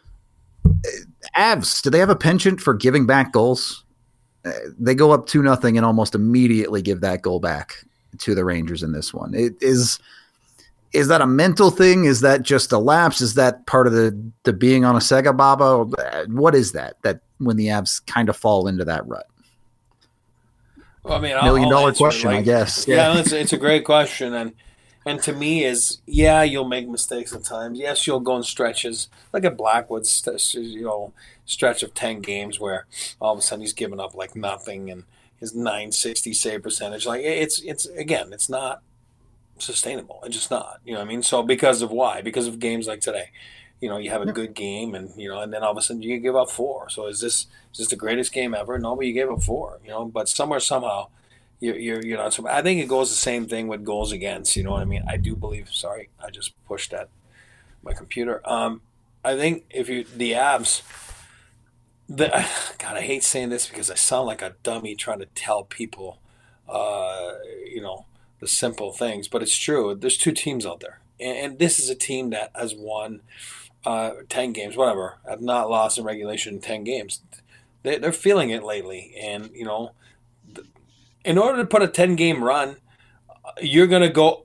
Avs, do they have a penchant for giving back goals? Uh, they go up two nothing and almost immediately give that goal back to the Rangers in this one. It is is that a mental thing? Is that just a lapse? Is that part of the, the being on a Sega Baba? What is that, that when the Avs kind of fall into that rut? Well, I mean, Million I'll, dollar I'll answer it, question, like, I guess. Yeah, it's, it's a great question, and and to me is yeah, you'll make mistakes at times. Yes, you'll go in stretches. Look at Blackwood's st- you know stretch of ten games where all of a sudden he's giving up like nothing, and his nine sixty save percentage. Like it's it's again, it's not sustainable. It's just not. You know what I mean? So because of why? Because of games like today. You know, you have a good game, and you know, and then all of a sudden you give up four. So is this is this the greatest game ever? No, but you gave up four. You know, but somewhere somehow, you're you're you know. So I think it goes the same thing with goals against. You know what I mean? I do believe. Sorry, I just pushed at my computer. Um, I think if you the Avs, the God, I hate saying this because I sound like a dummy trying to tell people, uh, you know, the simple things. But it's true. There's two teams out there, and, and this is a team that has won. Uh, ten games, whatever. I've not lost in regulation in ten games. They, they're feeling it lately, and you know, th- in order to put a ten-game run, you're gonna go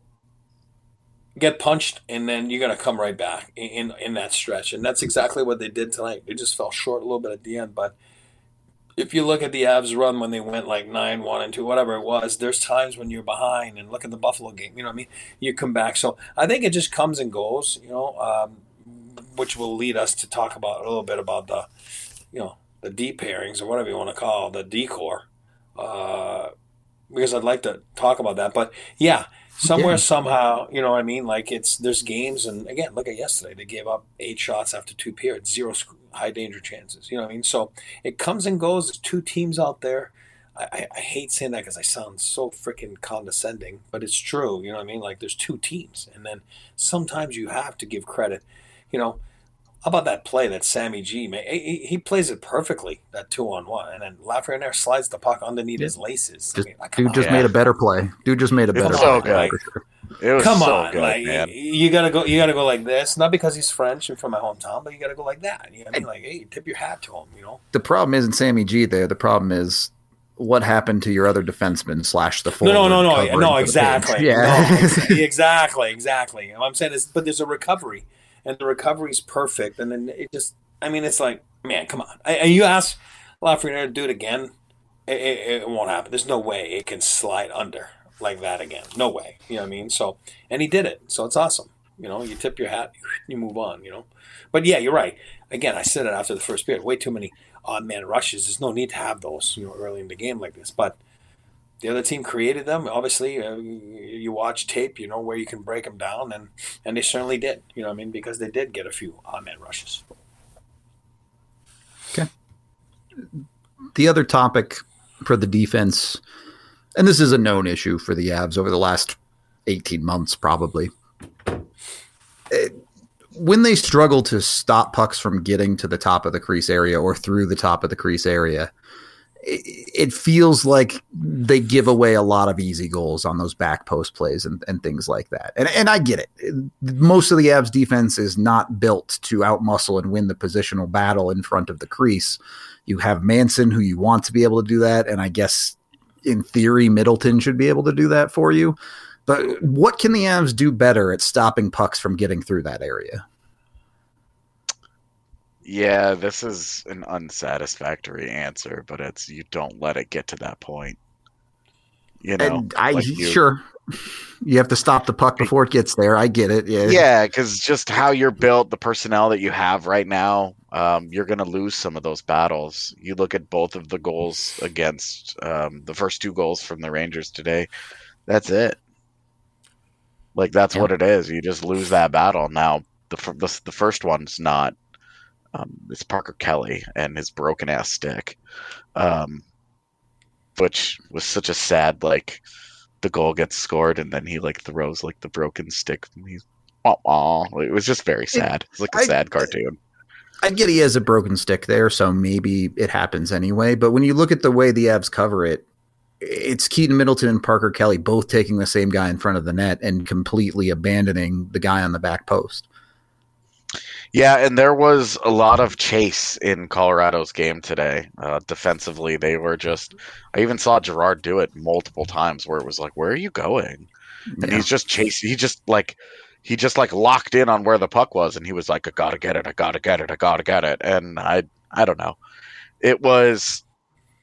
get punched, and then you're gonna come right back in, in in that stretch, and that's exactly what they did tonight. They just fell short a little bit at the end, but if you look at the Avs run when they went like nine one and two, whatever it was, there's times when you're behind, and look at the Buffalo game. You know what I mean? You come back, so I think it just comes and goes. You know. Um, which will lead us to talk about a little bit about the, you know, the D pairings or whatever you want to call it, the decor, uh, because I'd like to talk about that. But yeah, somewhere, Yeah. somehow, you know what I mean? Like it's, there's games, and again, look at yesterday, they gave up eight shots after two periods, zero sc- high danger chances. You know what I mean? So it comes and goes. There's two teams out there. I, I, I hate saying that because I sound so freaking condescending, but it's true. You know what I mean? Like there's two teams, and then sometimes you have to give credit. You know, how about that play that Sammy G made? He, he plays it perfectly, that two-on-one, and then Lafreniere slides the puck underneath his laces. I Just, mean, like, come dude on, just yeah. made a better play. Dude just made a It better was play. so good. for sure. It was come so on, good, like man. you gotta go, you gotta go like this. Not because he's French and from my hometown, but you gotta go like that. You know what I mean? Like, hey, tip your hat to him. You know? The problem isn't Sammy G there. The problem is what happened to your other defenseman slash the forward. No, no, no, no, covering no, for the exactly. page. Yeah. No, exa- exactly, exactly. What I'm saying is, but there's a recovery, and the recovery is perfect, and then it just, I mean, it's like, man, come on. I, and you ask Lafreniere to do it again, it, it, it won't happen. There's no way it can slide under like that again. No way. You know what I mean? So, and he did it. So it's awesome. You know, you tip your hat, you move on, you know. But yeah, you're right. Again, I said it after the first period. Way too many odd man rushes. There's no need to have those, you know, early in the game like this. But the other team created them. Obviously, uh, you watch tape, you know where you can break them down, and and they certainly did. You know what I mean? Because they did get a few on-man rushes. Okay. The other topic for the defense, and this is a known issue for the Avs over the last eighteen months, probably. It, when they struggle to stop pucks from getting to the top of the crease area or through the top of the crease area, it, it feels like they give away a lot of easy goals on those back post plays and, and things like that. And, and I get it. Most of the Avs defense is not built to outmuscle and win the positional battle in front of the crease. You have Manson, who you want to be able to do that, and I guess in theory Middleton should be able to do that for you. But what can the Avs do better at stopping pucks from getting through that area? Yeah, this is an unsatisfactory answer, but it's you don't let it get to that point. You know, and I like you, sure you have to stop the puck before it gets there. I get it. Yeah, yeah, because just how you're built, the personnel that you have right now, um, you're going to lose some of those battles. You look at both of the goals against um, the first two goals from the Rangers today. That's it. Like that's yeah. what it is. You just lose that battle. Now the the, the first one's not. Um, it's Parker Kelly and his broken ass stick, um, which was such a sad like. The goal gets scored and then he like throws like the broken stick. He's oh, oh. It was just very sad. It's like a I, sad cartoon. I get he has a broken stick there, so maybe it happens anyway. But when you look at the way the Avs cover it. It's Keaton Middleton and Parker Kelly both taking the same guy in front of the net and completely abandoning the guy on the back post. Yeah, and there was a lot of chase in Colorado's game today. Uh, defensively, they were just – I even saw Gerard do it multiple times where it was like, where are you going? And yeah. he's just chasing – he just like – he just like locked in on where the puck was, and he was like, I got to get it, I got to get it, I got to get it. And I I don't know. It was –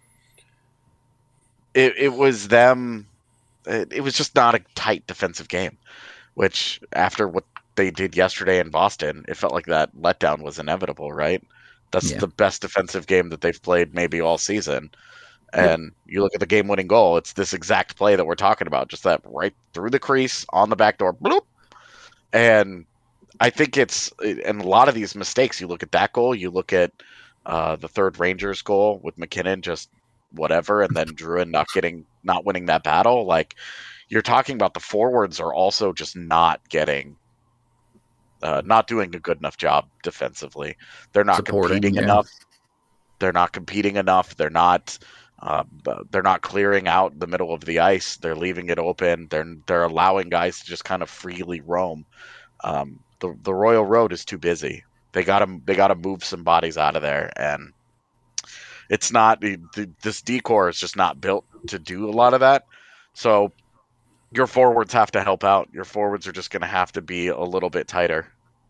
It it was them. It, it was just not a tight defensive game, which after what they did yesterday in Boston, it felt like that letdown was inevitable, right? That's yeah. the best defensive game that they've played maybe all season. And you look at the game-winning goal, it's this exact play that we're talking about, just that right through the crease, on the back door, bloop. And I think it's, and a lot of these mistakes, you look at that goal, you look at uh, the third Rangers goal with McKinnon just whatever, and then Druin not getting, not winning that battle. Like, you're talking about the forwards are also just not getting, uh, not doing a good enough job defensively. They're not Supporting, competing yeah. enough. They're not competing enough. They're not, uh, they're not clearing out the middle of the ice. They're leaving it open. They're they're allowing guys to just kind of freely roam. Um, the the Royal Road is too busy. They got to they got to move some bodies out of there, and it's not the, the, this decor is just not built to do a lot of that. So your forwards have to help out. Your forwards are just going to have to be a little bit tighter.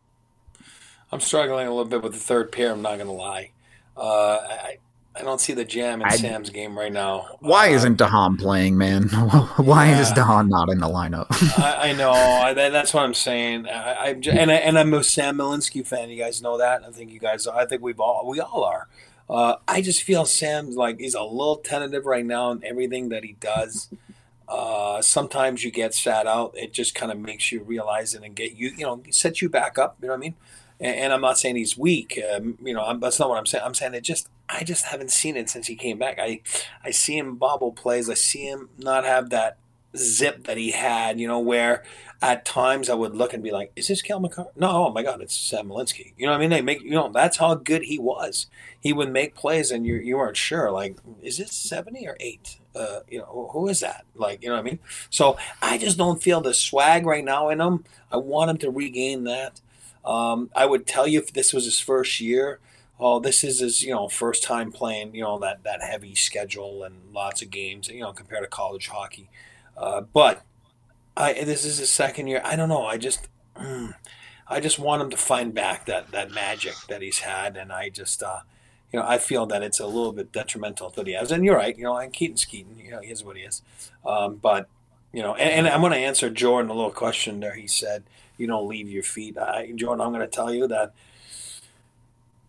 I'm struggling a little bit with the third pair. I'm not going to lie. Uh, I I don't see the jam in I, Sam's game right now. Why uh, isn't Dahan playing, man? Why yeah. is Dahan not in the lineup? I, I know. I, that, that's what I'm saying. I, I and I, and I'm a Sam Milinski fan. You guys know that. I think you guys. I think we've all we all are. Uh, I just feel Sam's like he's a little tentative right now in everything that he does. Uh, sometimes you get sat out. It just kind of makes you realize it and get you, you know, sets you back up. You know what I mean? And, and I'm not saying he's weak. Um, you know, I'm, that's not what I'm saying. I'm saying it just, I just haven't seen it since he came back. I, I see him bobble plays. I see him not have that zip that he had, you know, where at times I would look and be like, is this Cale Makar? No, oh my God, it's Sam Milinski. You know what I mean? They make, you know, that's how good he was. He would make plays and you you weren't sure, like, is it seventy or eight? Uh, you know, who is that? Like, you know what I mean? So I just don't feel the swag right now in him. I want him to regain that. Um, I would tell you if this was his first year, oh, this is his, you know, first time playing, you know, that, that heavy schedule and lots of games, you know, compared to college hockey. Uh, but I, this is his second year. I don't know. I just, mm, I just want him to find back that, that magic that he's had. And I just, uh, you know, I feel that it's a little bit detrimental to the Avs. And you're right. You know, and Keaton's Keaton. You know, he is what he is. Um, but, you know, and, and I'm going to answer Jordan a little question there. He said, you don't leave your feet. I, Jordan, I'm going to tell you that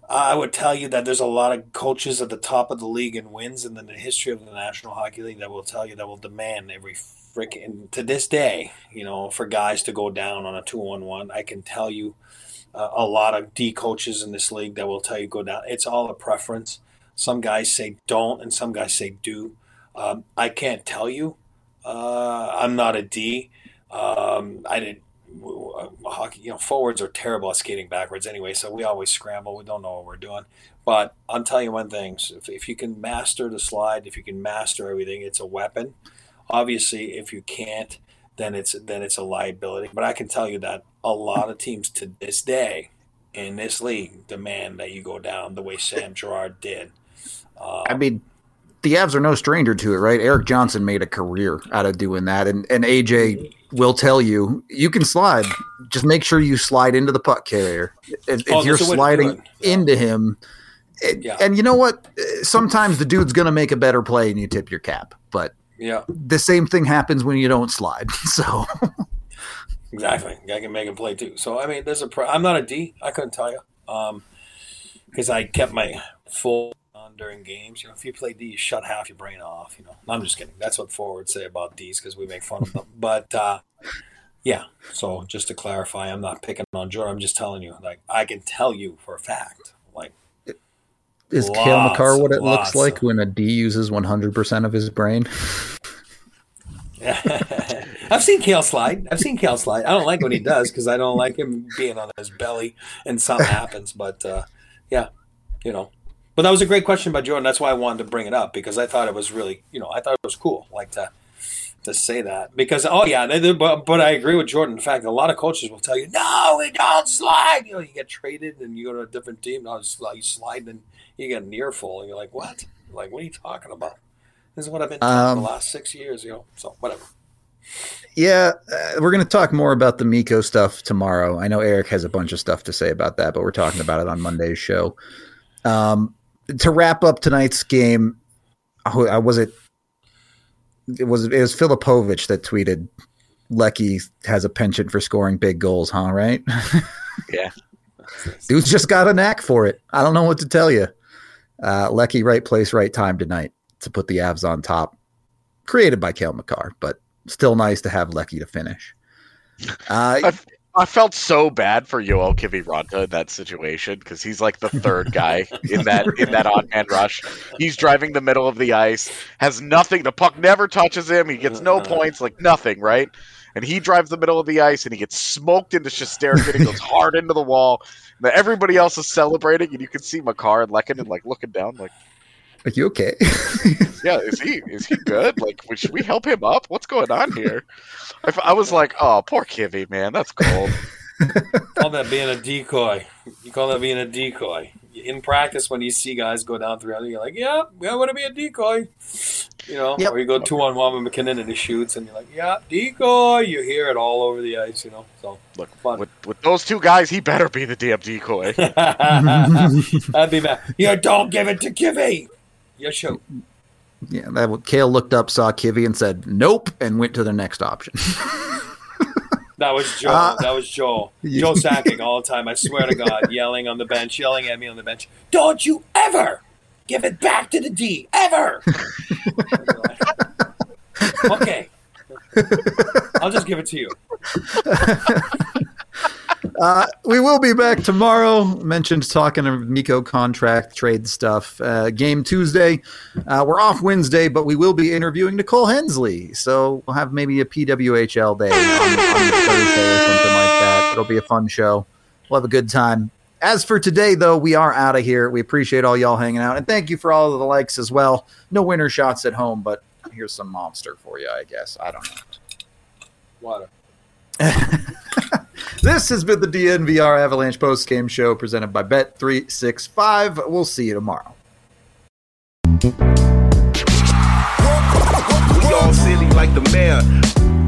I would tell you that there's a lot of coaches at the top of the league and wins in the history of the National Hockey League that will tell you that will demand every freaking to this day, you know, for guys to go down on a two on one. I can tell you uh, a lot of D coaches in this league that will tell you go down. It's all a preference. Some guys say don't, and some guys say do. Um, I can't tell you. Uh, I'm not a D. Um, I didn't. Hockey, you know, forwards are terrible at skating backwards anyway, so we always scramble. We don't know what we're doing. But I'll tell you one thing: if, if you can master the slide, if you can master everything, it's a weapon. Obviously, if you can't, then it's then it's a liability. But I can tell you that a lot of teams to this day in this league demand that you go down the way Sam Girard did. Um, I mean, the Avs are no stranger to it, right? Eric Johnson made a career out of doing that, and and A J will tell you you can slide. Just make sure you slide into the puck carrier. If, Oh, if you're that's a way to do sliding it. Yeah. into him, it, Yeah. and you know what? Sometimes the dude's going to make a better play, and you tip your cap. But yeah, the same thing happens when you don't slide. So exactly. I can make him play too. So I mean, there's a. Pro- I'm not a D. I couldn't tell you, um, because I kept my full on during games. You know, if you play D, you shut half your brain off. You know, I'm just kidding. That's what forwards say about Ds because we make fun of them. But uh, yeah. So just to clarify, I'm not picking on Jordan. I'm just telling you. Like I can tell you for a fact. Like is Lots, Cale Makar what it lots looks like of- when a D uses one hundred percent of his brain? I've seen Cale slide. I've seen Cale slide. I don't like when he does because I don't like him being on his belly and something happens. But uh, yeah, you know. But that was a great question by Jordan. That's why I wanted to bring it up because I thought it was really, you know, I thought it was cool, like to to say that because oh yeah, they, they, but but I agree with Jordan. In fact, a lot of coaches will tell you, no, we don't slide. You know, you get traded and you go to a different team. No, you slide and you get an earful, and you're like, what? Like, what are you talking about? This is what I've been doing Um, for the last six years, you know. So whatever. Yeah, uh, we're going to talk more about the Mikko stuff tomorrow. I know Eric has a bunch of stuff to say about that, but we're talking about it on Monday's show. Um, to wrap up tonight's game, who- uh, was it? It was it was Filipovic that tweeted, "Lecky has a penchant for scoring big goals, huh? Right? Yeah. Dude's just got a knack for it. I don't know what to tell you. Uh, Lecky, right place, right time tonight to put the Avs on top. Created by Cale Makar, but still nice to have Lecky to finish. Uh, I, I felt so bad for Yoel Kiviranta in that situation because he's like the third guy in that in that odd man rush. He's driving the middle of the ice, has nothing. The puck never touches him. He gets no points, like nothing, right? And he drives the middle of the ice and he gets smoked into Shesterkin and goes hard into the wall. And then everybody else is celebrating, and you can see Makar and Lehkonen like looking down, like, are you okay? yeah, is he is he good? Like, should we help him up? What's going on here? I, I was like, oh, poor Kivy, man, that's cold. Call that being a decoy. You call that being a decoy. In practice, when you see guys go down three hundred, you're like, yeah, I want to be a decoy. You know, Yep. or you go two on one with McKinnon and he shoots, and you're like, yeah, decoy. You hear it all over the ice, you know. So Look, fun. with with those two guys, he better be the damn decoy. That'd be bad. You don't give it to Kivy. You shoot. Yeah, that Cale looked up, saw Kivy, and said nope, and went to the next option. That was Joe. Uh, that was Joe. yeah. Joe Sakic all the time. I swear to God, yelling on the bench, yelling at me on the bench. Don't you ever give it back to the D, ever. Okay, I'll just give it to you. Uh, we will be back tomorrow. Mentioned talking of Mikko contract trade stuff. Uh, game Tuesday. Uh, we're off Wednesday, but we will be interviewing Nicole Hensley. So we'll have maybe a P W H L day on, on Thursday or something like that. It'll be a fun show. We'll have a good time. As for today, though, we are out of here. We appreciate all y'all hanging out. And thank you for all of the likes as well. No winner shots at home, but here's some monster for you, I guess. I don't know. Water. This has been the D N V R Avalanche post-game show presented by Bet three sixty-five. We'll see you tomorrow. We all silly like the mayor.